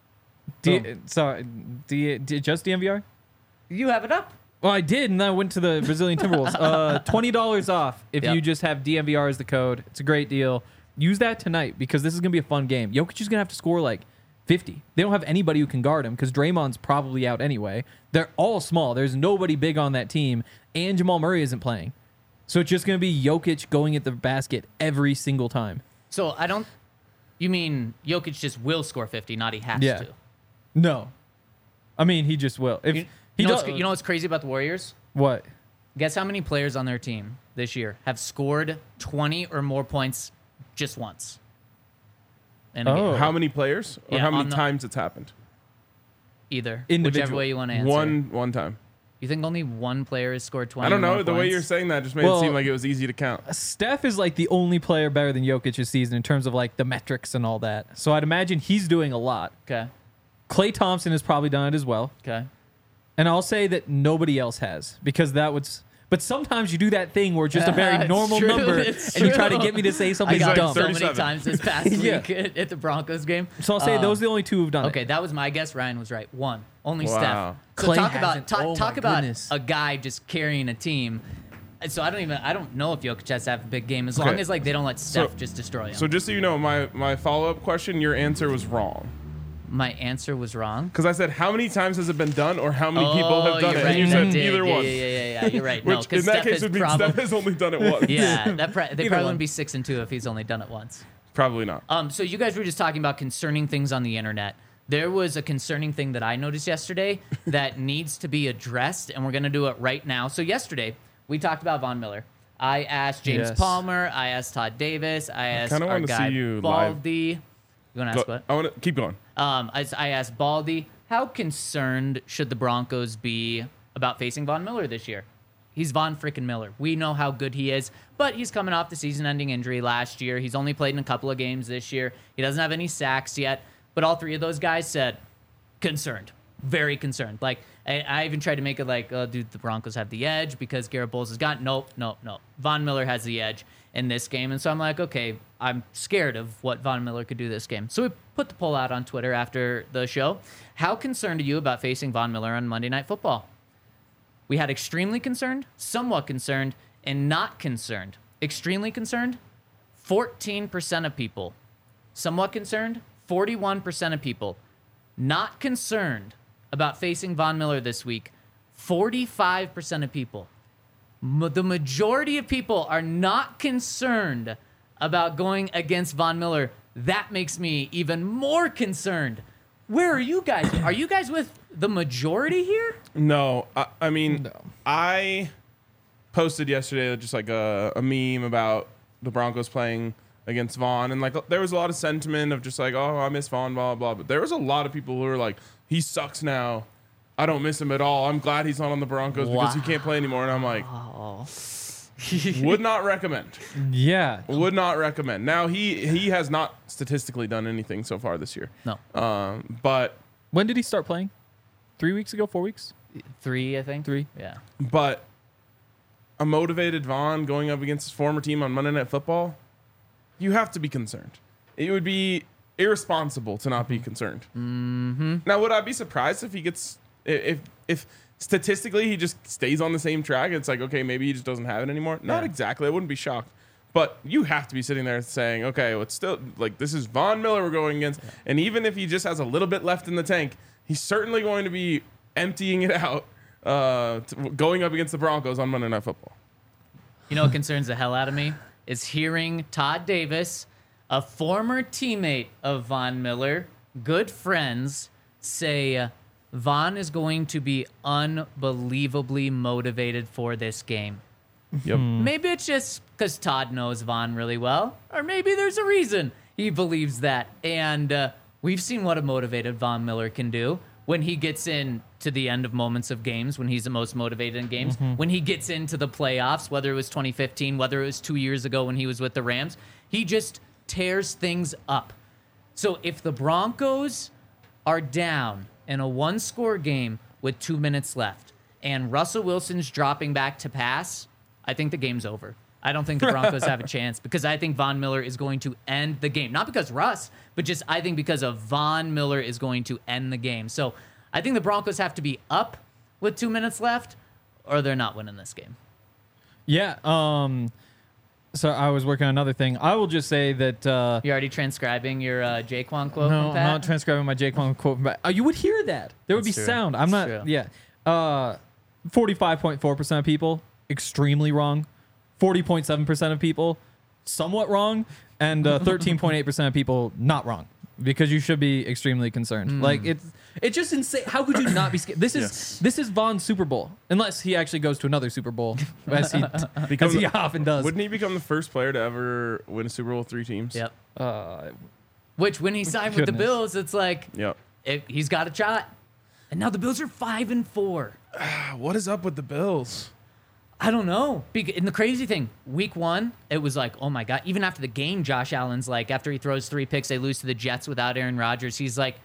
Sorry, just DMVR? You have it up. Well, I did, and then I went to the Brazilian Timberwolves. $20 off if Yep. you just have DMVR as the code. It's a great deal. Use that tonight because this is going to be a fun game. Jokic is going to have to score like 50. They don't have anybody who can guard him because Draymond's probably out anyway. They're all small. There's nobody big on that team, and Jamal Murray isn't playing. So it's just going to be Jokic going at the basket every single time. So I don't. You mean Jokic just will score 50, not he has Yeah. to? No. I mean, he just will. If You he know, does, what's, you know what's crazy about the Warriors? what? Guess how many players on their team this year have scored 20 or more points just once? In a Oh. game? How many players or Yeah, how many on the- times it's happened? Either. Individual. Whichever way you want to answer. One time. You think only one player has scored 20 I don't or more know. The way points? you're saying that just made Well- it seem like it was easy to count. Steph is like the only player better than Jokic this season in terms of like the metrics and all that. So I'd imagine he's doing a lot. Okay. Klay Thompson has probably done it as well. Okay. And I'll say that nobody else has because that would. But sometimes you do that thing where it's just a very It's normal true, number it's and you try to true. get me to say I something got dumb. it so many 37. times this past Yeah. week at the Broncos game. So I'll say those are the only two who've done Okay, it. that was my guess. Ryan was right. One. Only Wow. Steph. So Klay talk about hasn't. Oh talk my about goodness. a guy just carrying a team. And so I don't know if Jokic has to have a big game as long Okay. as like they don't let Steph So- just destroy him. So just so you know, my follow-up question, your answer was wrong. My answer was wrong. Because I said, how many times has it been done or how many people have done you're it? right. And you I said did. either yeah, one. Yeah. You're right. Which No, because in that Steph case has would mean probably. Steph has only done it once. Yeah, they probably one. wouldn't be 6-2 if he's only done it once. Probably not. So you guys were just talking about concerning things on the internet. There was a concerning thing that I noticed yesterday that needs to be addressed, and we're going to do it right now. So yesterday, we talked about Von Miller. I asked James Yes. Palmer. I asked Todd Davis. I asked kinda our wanna guy see you live. Baldy. You want to ask what? I want to keep going. I asked Baldy, how concerned should the Broncos be about facing Von Miller this year? He's Von frickin' Miller. We know how good he is, but he's coming off the season-ending injury last year. He's only played in a couple of games this year. He doesn't have any sacks yet, but all three of those guys said concerned, very concerned. Like, I even tried to make it like, oh, dude, the Broncos have the edge because Garrett Bowles has got nope. Von Miller has the edge in this game. And so I'm like, okay, I'm scared of what Von Miller could do this game. So we put the poll out on Twitter after the show. How concerned are you about facing Von Miller on Monday Night Football? We had extremely concerned, somewhat concerned, and not concerned. Extremely concerned, 14% of people. Somewhat concerned, 41% of people. Not concerned about facing Von Miller this week, 45% of people. The majority of people are not concerned about going against Von Miller. That makes me even more concerned. Where are you guys? Are you guys with the majority here? No, I mean, I posted yesterday just like a meme about the Broncos playing against Vaughn, and like there was a lot of sentiment of just like, oh, I miss Vaughn, blah blah blah. But there was a lot of people who were like, he sucks now. I don't miss him at all. I'm glad he's not on the Broncos because he can't play anymore. And I'm like, would not recommend. Yeah. Would not recommend. Now he has not statistically done anything so far this year. No. But When did he start playing? 3 weeks ago? 4 weeks? 3, I think. 3. Yeah. But a motivated Vaughn going up against his former team on Monday Night Football, you have to be concerned. It would be irresponsible to not be concerned. Mm-hmm. Now, would I be surprised if he gets if statistically he just stays on the same track? It's like, okay, maybe he just doesn't have it anymore. Not exactly. I wouldn't be shocked. But you have to be sitting there saying, okay, well, it's still like this is Von Miller we're going against, and even if he just has a little bit left in the tank, he's certainly going to be emptying it out, going up against the Broncos on Monday Night Football. You know what concerns the hell out of me is hearing Todd Davis, a former teammate of Von Miller, good friends, say Von is going to be unbelievably motivated for this game. Yep. Maybe it's just because Todd knows Von really well, or maybe there's a reason he believes that. And we've seen what a motivated Von Miller can do when he gets in to the end of moments of games, when he's the most motivated in games, when he gets into the playoffs, whether it was 2015, whether it was 2 years ago when he was with the Rams, he just tears things up. So if the Broncos are down in a one-score game with 2 minutes left and Russell Wilson's dropping back to pass, I think the game's over. I don't think the Broncos have a chance because I think Von Miller is going to end the game. Not because Russ, but just I think because of Von Miller is going to end the game. So I think the Broncos have to be up with 2 minutes left or they're not winning this game. Yeah. So I was working on another thing. I will just say that... You're already transcribing your Jaquan quote no, from Pat? I'm not transcribing my Jaquan quote from Pat. You would hear that. There would That's be true. sound. I'm That's not... true. Yeah. 45.4% of people, extremely wrong. 40.7% of people, somewhat wrong. And 13.8% of people, not wrong. Because you should be extremely concerned. Like, it's just insane. How could you not be scared? This is Von's Super Bowl. Unless he actually goes to another Super Bowl, as he often does. Wouldn't he become the first player to ever win a Super Bowl with 3 teams? Yep. Uh, Which, when he signed with the Goodness. Bills, it's like Yep. he's got a shot. And now the Bills are 5-4. What is up with the Bills? I don't know. And the crazy thing, week 1, it was like, oh my God. Even after the game, Josh Allen's like, after he throws 3 picks, they lose to the Jets without Aaron Rodgers. He's like,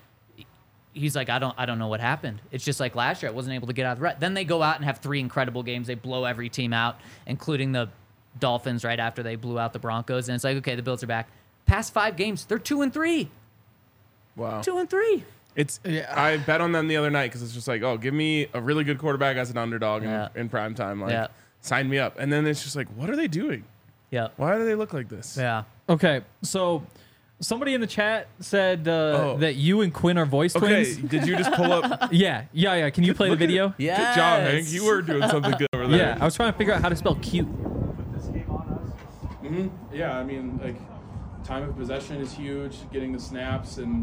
I don't know what happened. It's just like last year, I wasn't able to get out of the rut. Then they go out and have 3 incredible games. They blow every team out, including the Dolphins right after they blew out the Broncos. And it's like, okay, the Bills are back. Past 5 games, they're 2-3. Wow. 2-3. I bet on them the other night because it's just like, oh, give me a really good quarterback as an underdog in prime time. Like, sign me up. And then it's just like, what are they doing? Yeah. Why do they look like this? Yeah. okay, so somebody in the chat said that you and Quinn are voice Okay, twins. did you just pull up? Yeah. Can you play the video? Yeah. Good job, Hank. You were doing something good over there. Yeah, I was trying to figure out how to spell cute. Put this game on us. Yeah, I mean, like, time of possession is huge. Getting the snaps and,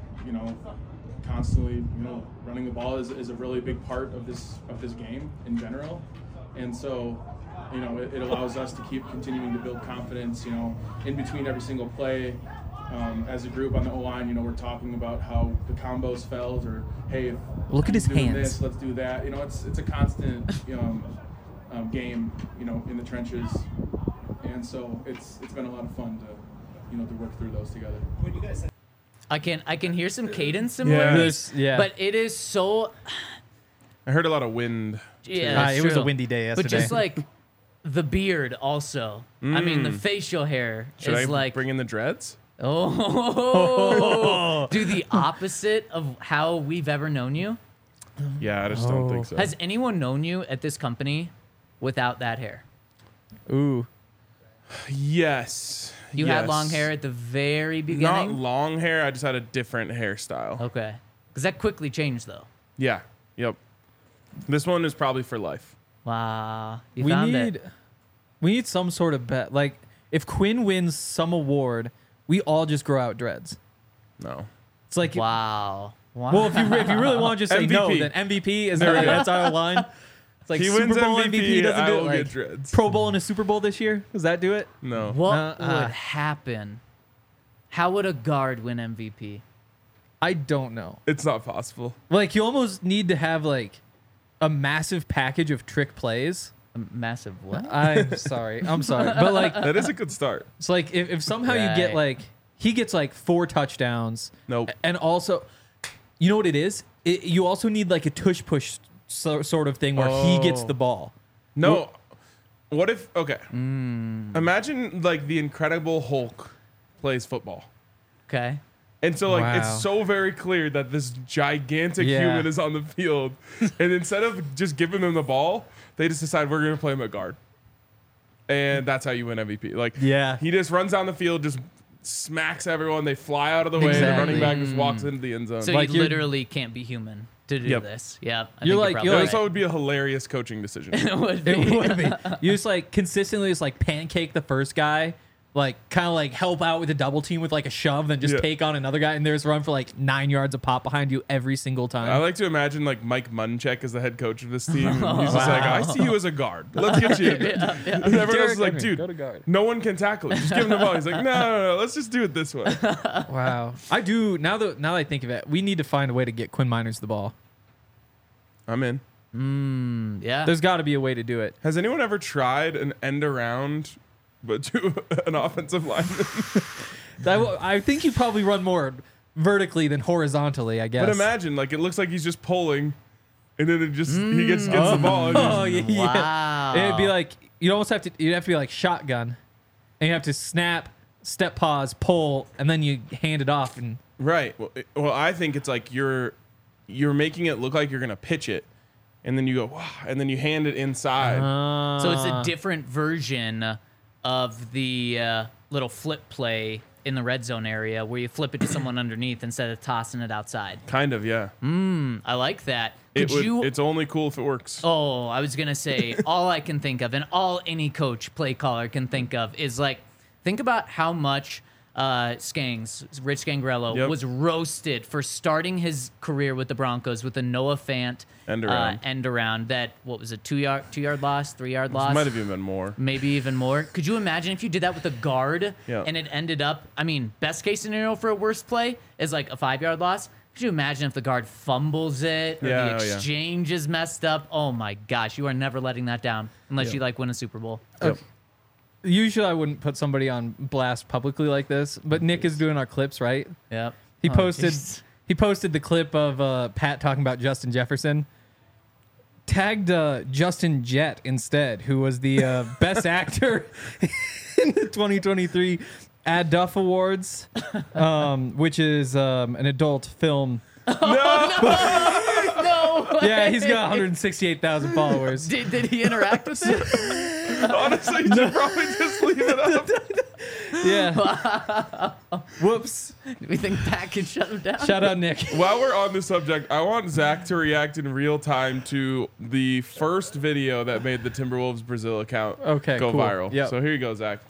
constantly, running the ball is a really big part of this game in general. And so, it allows us to keep continuing to build confidence, in between every single play. As a group on the O-line, we're talking about how the combos felt, or, hey, if Look at his doing hands. this, let's do that. It's a constant, game, in the trenches. And so it's been a lot of fun to work through those together. When you guys said I can hear some cadence similarities, Yeah. but it is so I heard a lot of wind. yeah. that's it was a true. windy day But yesterday. just like the beard, also. I mean, the facial hair Should is I like bring in the dreads? do the opposite of how we've ever known you. Yeah, I just don't think so. Has anyone known you at this company without that hair? Ooh. Yes. You had Yes. long hair at the very Not beginning. long hair. I just had a different hairstyle. Okay, because that quickly changed though. Yeah. Yep. This one is probably for life. Wow, you we found need it. we need some sort of bet. Like, if Quinn wins some award, we all just grow out dreads. No. It's like, Wow. well, if you really want to just say no, MVP. then MVP is There our we go. that's our line. It's like He Super wins Bowl MVP, MVP doesn't I do will it. get Like dreads. Pro Bowl and a Super Bowl this year. Does that do it? No. What would happen? How would a guard win MVP? I don't know. It's not possible. Like you almost need to have like a massive package of trick plays. A massive what? I'm sorry. But like That is a good start. it's like if somehow you get Right. like he gets like 4 touchdowns. Nope. And also, you know what it is? You also need like a tush push sort of thing where he gets Oh. the ball. No. What if, okay. Imagine like the Incredible Hulk plays football. Okay. And so, like, Wow. it's so very clear that this gigantic Yeah. human is on the field. And instead of just giving them the ball, they just decide we're going to play him at guard. And that's how you win MVP. Like, Yeah. he just runs down the field, just smacks everyone. They fly out of the way. The Exactly. running back just walks into the end zone. So Like you you're- literally can't be human to do Yep. this. Yeah. I You're think like- probably you're That like- also would be a hilarious coaching decision. it would be. It would be. You just like consistently just like pancake the first guy, like kind of like help out with a double team with like a shove, then just Yeah. take on another guy, and there's run for like 9 yards of pop behind you every single time. I like to imagine like Mike Munchak as the head coach of this team. And he's just like, I see you as a guard. Let's get you. And everyone else Derrick is like, Henry, dude, go to guard. no one can tackle it. Just give him the ball. He's like, no. Let's just do it this way. Wow. I do now that I think of it, we need to find a way to get Quinn Miners the ball. I'm in. Yeah. There's got to be a way to do it. Has anyone ever tried an end around, but to an offensive lineman? I think you probably run more vertically than horizontally. I guess. But imagine, like, it looks like he's just pulling, and then it just he gets the ball. And Oh just, yeah. Wow. It'd be like you'd have to be like shotgun, and you have to snap, step, pause, pull, and then you hand it off. And Right. Well, I think it's like you're making it look like you're gonna pitch it, and then you go, wow, and then you hand it inside. So it's a different version of the little flip play in the red zone area where you flip it to someone underneath instead of tossing it outside. Kind of, yeah. I like that. Could you? It's only cool if it works. Oh, I was gonna say all I can think of, and all any coach, play caller can think of, is like think about how much Rich Scangarello Yep. was roasted for starting his career with the Broncos with a Noah Fant End around. end around. That what was a 2-yard loss, 3-yard loss? Might have even been more. Maybe even more. Could you imagine if you did that with a guard Yeah. and it ended up, I mean, best case scenario for a worst play is like a 5-yard loss. Could you imagine if the guard fumbles it or Yeah, the oh, yeah. exchange is messed up? Oh my gosh, you are never letting that down unless you like win a Super Bowl. Yep. usually I wouldn't put somebody on blast publicly like this, but Nick is doing our clips, right? Yep. He Oh, posted jeez. he posted the clip of Pat talking about Justin Jefferson. Tagged Justin Jett instead, who was the best actor in the 2023 Ad Duff Awards, which is an adult film. No. Yeah, he's got 168,000 followers. Did he interact with it? Honestly, you should probably just leave it up. Yeah. Whoops. Do we think Pat can shut him down? Shout out Nick. While we're on the subject, I want Zach to react in real time to the first video that made the Timberwolves Brazil account Okay, go cool. viral. Yep. So here you go, Zach.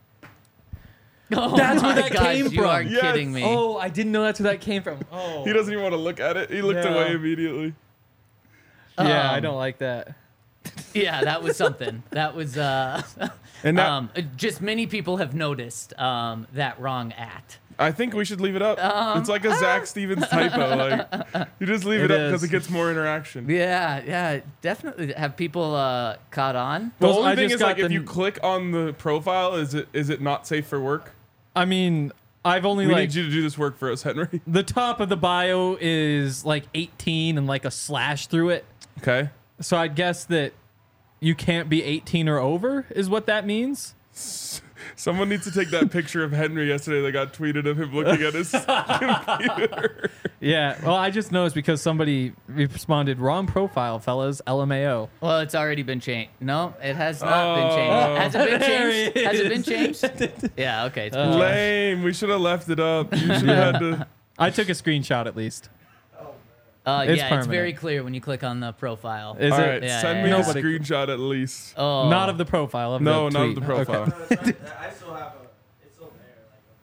Oh That's where my that gosh, came You from. are Yes. kidding me. Oh, I didn't know that's where that came from. Oh. He doesn't even want to look at it. He looked Yeah. away immediately. Yeah, I don't like that. Yeah, that was something. That was And now just many people have noticed that wrong at. I think we should leave it up. It's like a Zach Stevens typo. Like you just leave it, It up because is. it gets more interaction. Yeah, definitely. Have people caught on? The Well, only I thing just is like got if the- you click on the profile, is it not safe for work? I mean, I've only We like need you to do this work for us, Henry. the top of the bio is like 18 and like a slash through it. Okay. So I guess that you can't be 18 or over is what that means. Someone needs to take that picture of Henry yesterday that got tweeted of him looking at his computer. Yeah. Well, I just noticed because somebody responded, wrong profile, fellas, LMAO. Well, it's already been changed. No, it has not been changed. Has it been There changed? he Has it been is. changed? Yeah, okay. It's been changed. Lame. We should have left it up. You should have had to. I took a screenshot at least. Yeah, It's it's permanent. very clear when you click on the profile. Is All it? right, Yeah, send yeah, me yeah. a Nobody- screenshot at least. Oh, Not of the profile. Of No, the not tweet. of the profile. Okay. I still have it's still there.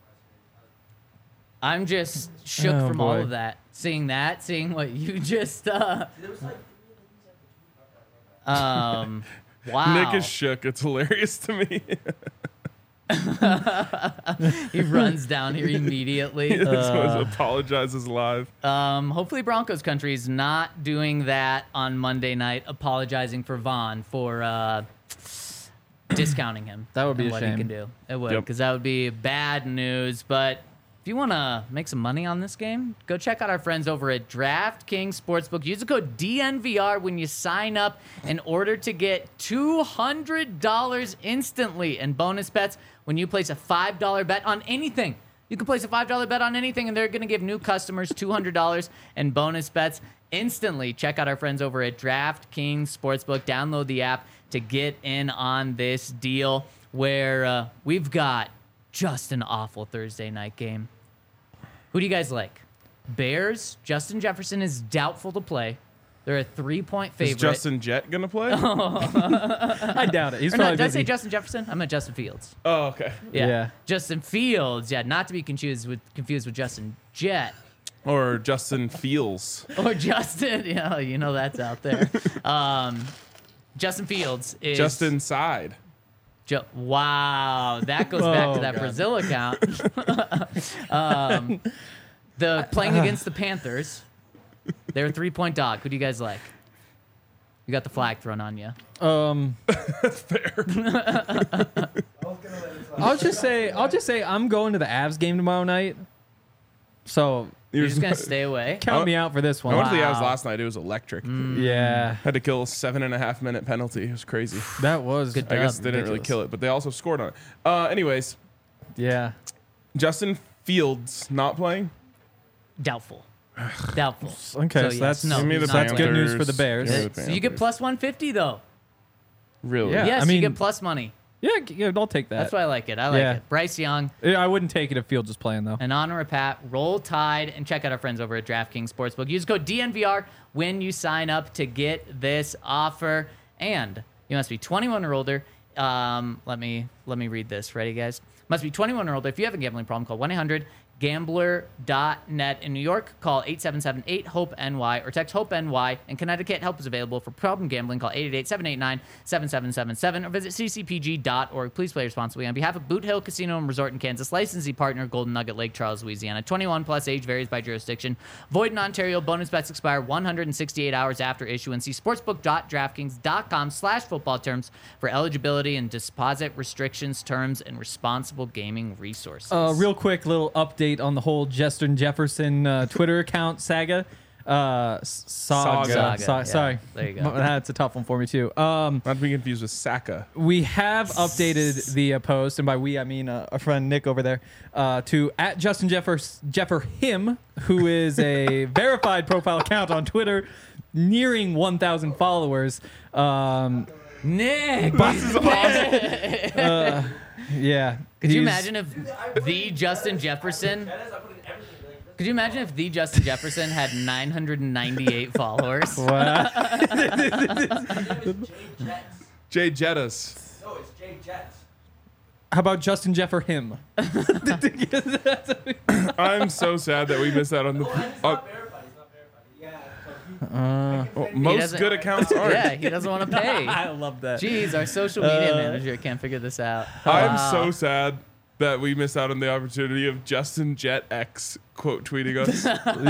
I'm just shook Oh, from all boy. of that. Seeing what you just. There was like Wow. Nick is shook. It's hilarious to me. He runs down here immediately. He apologizes live. Hopefully Broncos country is not doing that on Monday night, apologizing for Vaughn for discounting him. That would be and a what shame. he can do. It would, Yep. because that would be bad news. But if you want to make some money on this game, go check out our friends over at DraftKings Sportsbook. Use the code DNVR when you sign up in order to get $200 instantly in bonus bets when you place a $5 bet on anything. You can place a $5 bet on anything, and they're going to give new customers $200 in bonus bets instantly. Check out our friends over at DraftKings Sportsbook. Download the app to get in on this deal where we've got just an awful Thursday night game. Who do you guys like? Bears. Justin Jefferson is doubtful to play. They're a 3-point favorite. Is Justin Jett gonna play? I doubt it. He's Or no, probably did I busy. say Justin Jefferson? I meant Justin Fields. Oh, okay. Yeah. Justin Fields. Yeah, not to be confused with Justin Jett. Or Justin Fields. Or Justin, you know that's out there. Justin Fields is Justin Side. Wow, that goes back to that Brazil account. The playing against the Panthers, they're a 3-point dog. Who do you guys like? You got the flag thrown on you. I'll just say I'm going to the Avs game tomorrow night. So You're just gonna stay away. count me out for this I one. went to the Avs Wow. last night. It was electric. Yeah, Had to kill a 7.5-minute penalty. It was crazy. that was Good I guess dub. they didn't really ridiculous. kill it, but they also scored on it. Anyways, Yeah. Justin Fields not playing. Doubtful. Doubtful. Okay, so yes, that's no, Give me he's the not that's good playing. news for the Bears. Yeah. So you get plus 150 though. Really? Yeah. Yes, I mean- you get plus money. Yeah, I'll take that. That's why I like it. I like Yeah. it. Bryce Young, I wouldn't take it if Fields is playing though. in honor of Pat, roll Tide, and check out our friends over at DraftKings Sportsbook. Use code DNVR when you sign up to get this offer. And you must be 21 or older. Let me read this. Ready, guys? Must be 21 or older. If you have a gambling problem, call 1-800-GAMBLER.net. In New York, call 877-8-HOPE-NY or text HOPE-NY. In Connecticut, help is available for problem gambling. Call 888-789-7777 or visit ccpg.org. Please play responsibly. On behalf of Boot Hill Casino and Resort in Kansas, licensee partner Golden Nugget Lake Charles, Louisiana. 21 plus, age varies by jurisdiction. Void in Ontario. Bonus bets expire 168 hours after issuance. See sportsbook.draftkings.com/football terms for eligibility and deposit restrictions, terms, and responsible gaming resources. Real quick little update on the whole Justin Jefferson Twitter account saga. Saga. Saga, yeah. Sorry. There you go. That's a tough one for me too. Not to be confused with Saka. We have updated the post, and by we I mean our friend Nick over there, to at Justin Jefferhim, who is a verified profile account on Twitter, nearing 1,000 followers. Nick! This is awesome. Yeah. Could you imagine if the Justin Jefferson... Could you imagine if the Justin Jefferson had 998 followers? What? Jay Jettas. No, it's Jay Jets. How about Justin Jefferhim? I'm so sad that we missed out on the. He's not verified. He's not verified. Yeah. Most doesn't- good accounts aren't. Yeah, he doesn't want to pay. I love that. Jeez, our social media manager can't figure this out. I'm Wow. so sad that we missed out on the opportunity of Justin Jet X quote tweeting us.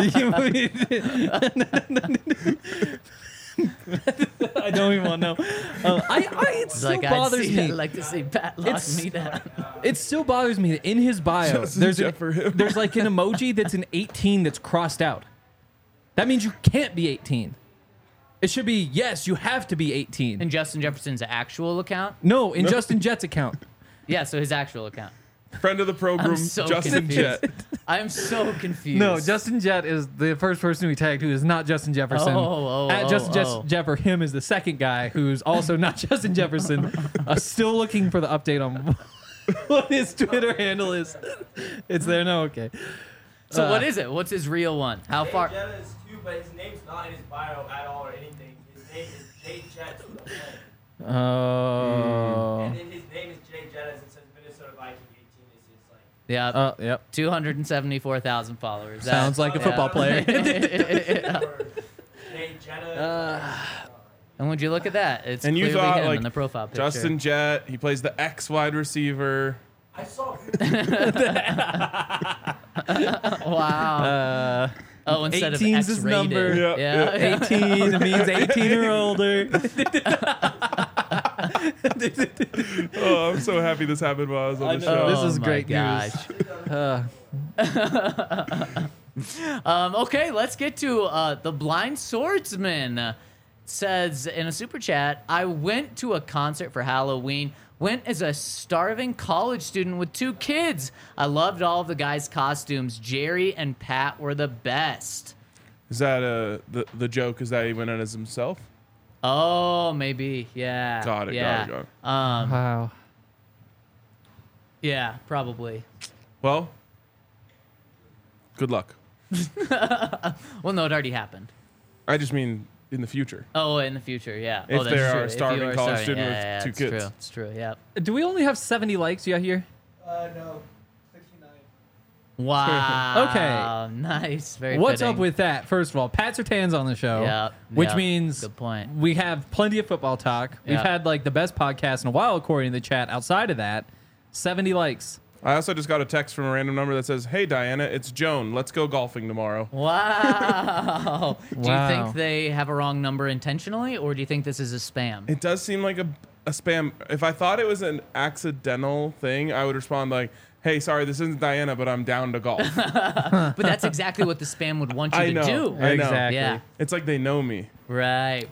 I don't even want to know. It It's still like, bothers I'd me. like to see Pat lock It's- me down. It still bothers me that in his bio, Justin there's Jefferhim. there's like an emoji that's an 18 that's crossed out. That means you can't be 18. It should be, yes, you have to be 18. In Justin Jefferson's actual account? No, in Justin Jet's account. Yeah, so his actual account. Friend of the program, I'm so Justin confused. Jet. I'm so confused. No, Justin Jet is the first person we tagged who is not Justin Jefferson. Justin Jefferhim is the second guy who's also not Justin Jefferson. Still looking for the update on what his Twitter handle is. It's there now? Okay. So what is it? What's his real one? How far? Jay Jets is too, but his name's not in his bio at all or anything. His name is Jay Jets with a J. Oh. And then his name is Jay Jettas. It says Minnesota Viking 18. It's like. Yeah, Yep. 274,000 followers. Sounds like a football player. Or Jay Jetta. And would you look at that? It's And you clearly thought him like in the profile picture. Justin Jett, he plays the X wide receiver. I saw. Wow. Oh, instead of 18's his X-rated. number. Yeah. 18 means 18 or older. Oh, I'm so happy this happened while I was on the show. This is my great gosh. Okay, let's get to the Blind Swordsman. Says in a super chat, I went to a concert for Halloween. Went as a starving college student with 2 kids. I loved all of the guys' costumes. Jerry and Pat were the best. Is that the joke? Is that he went in as himself? Oh, maybe. Yeah. Got it. Yeah. Got it. Wow. Yeah, probably. Well, good luck. Well, no, it already happened. I just mean in the future. Oh, in the future, yeah. If oh, that's there true. are a If starving you are college starving, student with yeah, 2 it's kids. True. It's true. Yeah. Do we only have 70 likes yet here? No, 69. Wow. Okay. Nice. Very. What's fitting. up with that? First of all, Pat Surtain's on the show. Yeah, Which yeah. means Good point. we have plenty of football talk. We've Yeah. had like the best podcast in a while, according to the chat. Outside of that, 70 likes. I also just got a text from a random number that says, "Hey Diana, it's Joan. Let's go golfing tomorrow." Wow. Do you Wow. think they have a wrong number intentionally, or do you think this is a spam? It does seem like a spam. If I thought it was an accidental thing, I would respond like, "Hey, sorry, this isn't Diana, but I'm down to golf." But that's exactly what the spam would want you I to know. do. I know. Exactly. Yeah. It's like they know me. Right.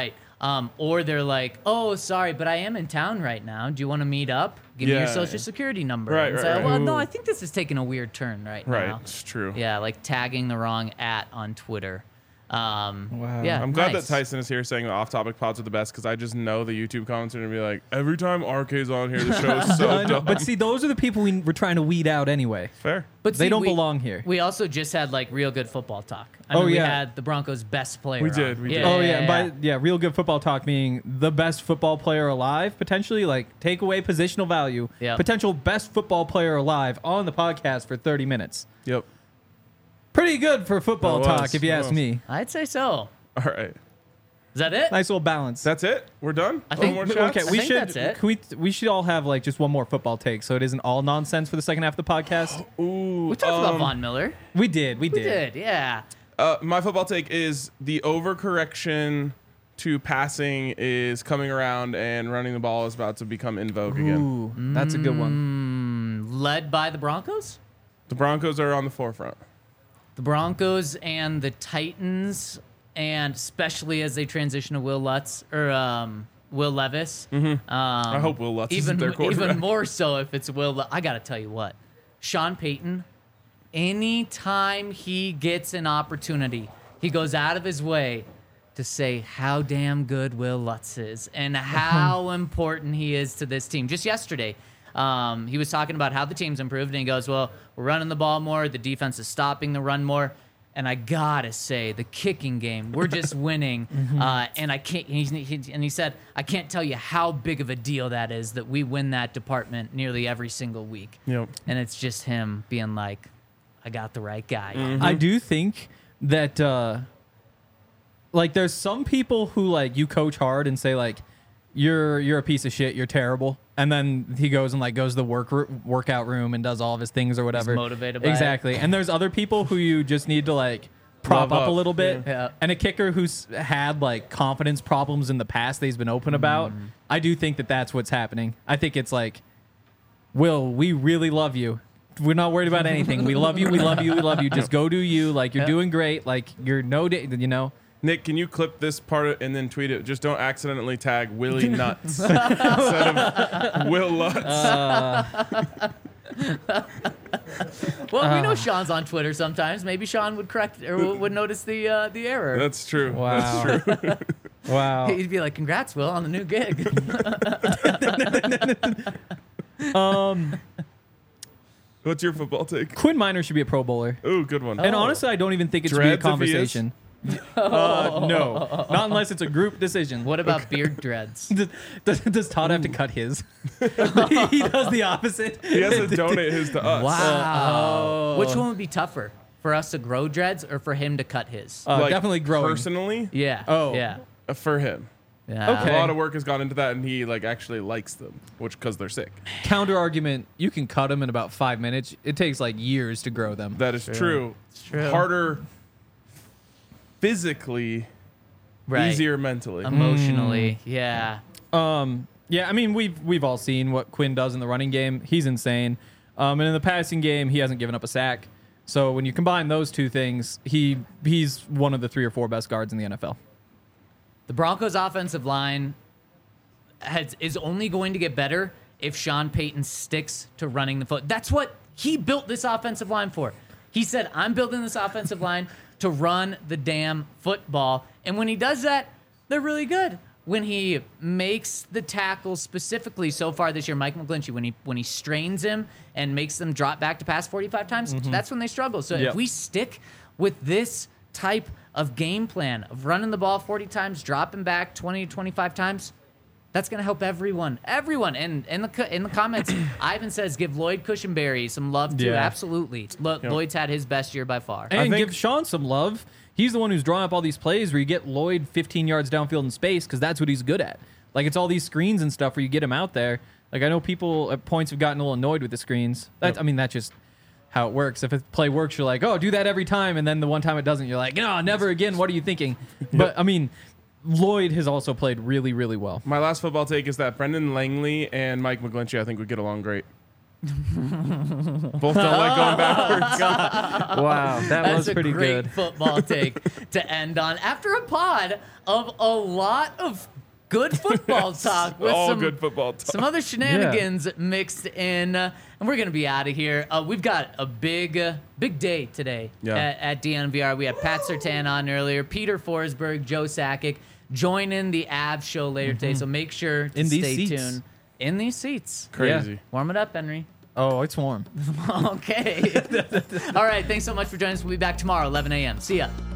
Or they're like, oh, sorry, but I am in town right now. Do you want to meet up? Give me your Yeah. social security number. Right, And right, say, right. well, no, I think this is taking a weird turn right Right. now. It's true. Yeah, like tagging the wrong @ on Twitter. Wow. Yeah, I'm glad nice. that Tyson is here saying the off-topic pods are the best because I just know the YouTube comments are gonna be like, every time RK's on here, the show is so I know, dumb. but see, those are the people we're trying to weed out anyway. Fair. But They see, don't we- belong here. We also just had like real good football talk. I Oh, mean, we yeah. had the Broncos' best player. We on. did, we did. Oh yeah, real good football talk meaning the best football player alive, potentially like take away positional value, Yep. potential best football player alive on the podcast for 30 minutes. Yep. Pretty good for football It was, talk, if you it ask was. me. I'd say so. All right. Is that it? Nice little balance. That's it. We're done. I think- No more shots? Okay, I we think should that's it. we should all have like just one more football take, so it isn't all nonsense for the second half of the podcast. Ooh. We talked about Von Miller. We did. We did, yeah. My football take is the overcorrection to passing is coming around and running the ball is about to become in vogue again. Ooh, that's a good one. Led by the Broncos? The Broncos are on the forefront. The Broncos and the Titans, and especially as they transition to Will Levis. I hope Will Lutz isn't their quarterback. Even more so if it's I got to tell you what, Sean Payton, anytime he gets an opportunity, he goes out of his way to say how damn good Will Lutz is and how important he is to this team. Just yesterday, he was talking about how the team's improved, and he goes, well, we're running the ball more, the defense is stopping the run more, and I gotta say, the kicking game, we're just winning. And I can't. And he said, I can't tell you how big of a deal that is that we win that department nearly every single week. Yep. And it's just him being like, I got the right guy. I do think that like there's some people who like you coach hard and say like you're a piece of shit, you're terrible, and then he goes and like goes to the workout room and does all of his things or whatever. motivated by it. Exactly. And there's other people who you just need to like prop Love up a up. little bit. Yeah. And a kicker who's had like confidence problems in the past that he's been open about. I do think that that's what's happening. I think it's like, Will, we really love you. We're not worried about anything. We love you. We love you. We love you. Just go do you. Like you're doing great. Like you're you know. Nick, can you clip this part and then tweet it? Just don't accidentally tag Willie Nuts instead of Will Lutz. Well, we know Sean's on Twitter sometimes. Maybe Sean would correct or would notice the error. That's true. Wow. That's true. Wow. He'd be like, "Congrats, Will, on the new gig." What's your football take? Quinn Minor should be a Pro Bowler. Ooh, good one. And honestly, I don't even think it should be a Dreads if he is? conversation. No, not unless it's a group decision. What about beard dreads? Does Todd have to cut his? He does the opposite. He has to donate his to us. Wow. Which one would be tougher, for us to grow dreads or for him to cut his? Like, Definitely growing. Personally, Yeah. Oh. Yeah. for him. Yeah. Okay. A lot of work has gone into that, and he like actually likes them, which because they're sick. Counter argument: you can cut them in about 5 minutes. It takes like years to grow them. That is true. It's true. Harder physically, Right. easier mentally. Emotionally. Yeah. Yeah, I mean we've all seen what Quinn does in the running game. He's insane. And in the passing game, he hasn't given up a sack. So when you combine those two things, he's one of the 3 or 4 best guards in the NFL. The Broncos' offensive line is only going to get better if Sean Payton sticks to running the foot. That's what he built this offensive line for. He said, I'm building this offensive line to run the damn football. And when he does that, they're really good. When he makes the tackles specifically so far this year, Mike McGlinchey, when he strains him and makes them drop back to pass 45 times, that's when they struggle. So Yep. if we stick with this type of game plan of running the ball 40 times, dropping back 20 to 25 times, that's going to help everyone. Everyone. And in the comments, Ivan says give Lloyd Cushenberry some love too. Yeah. Absolutely. Lloyd's had his best year by far. And think- give Sean some love. He's the one who's drawing up all these plays where you get Lloyd 15 yards downfield in space because that's what he's good at. Like, it's all these screens and stuff where you get him out there. Like, I know people at points have gotten a little annoyed with the screens. That's, I mean, that's just how it works. If a play works, you're like, oh, do that every time. And then the one time it doesn't, you're like, no, never again. What are you thinking? But, I mean, Lloyd has also played really, really well. My last football take is that Brendan Langley and Mike McGlinchey, I think, would get along great. Both don't like going backwards. Wow, that That's was pretty a great good. football take to end on. After a pod of a lot of good football talk with All some good football talk. some other shenanigans mixed in, and we're gonna be out of here. We've got a big day today at DNVR. We had Pat Surtain on earlier, Peter Forsberg, Joe Sakic joining the Avs show later today. So make sure to In these stay seats. tuned. In these seats. Crazy. Warm it up, Henry. Oh, it's warm. Okay. All right. Thanks so much for joining us. We'll be back tomorrow, 11 a.m. See ya.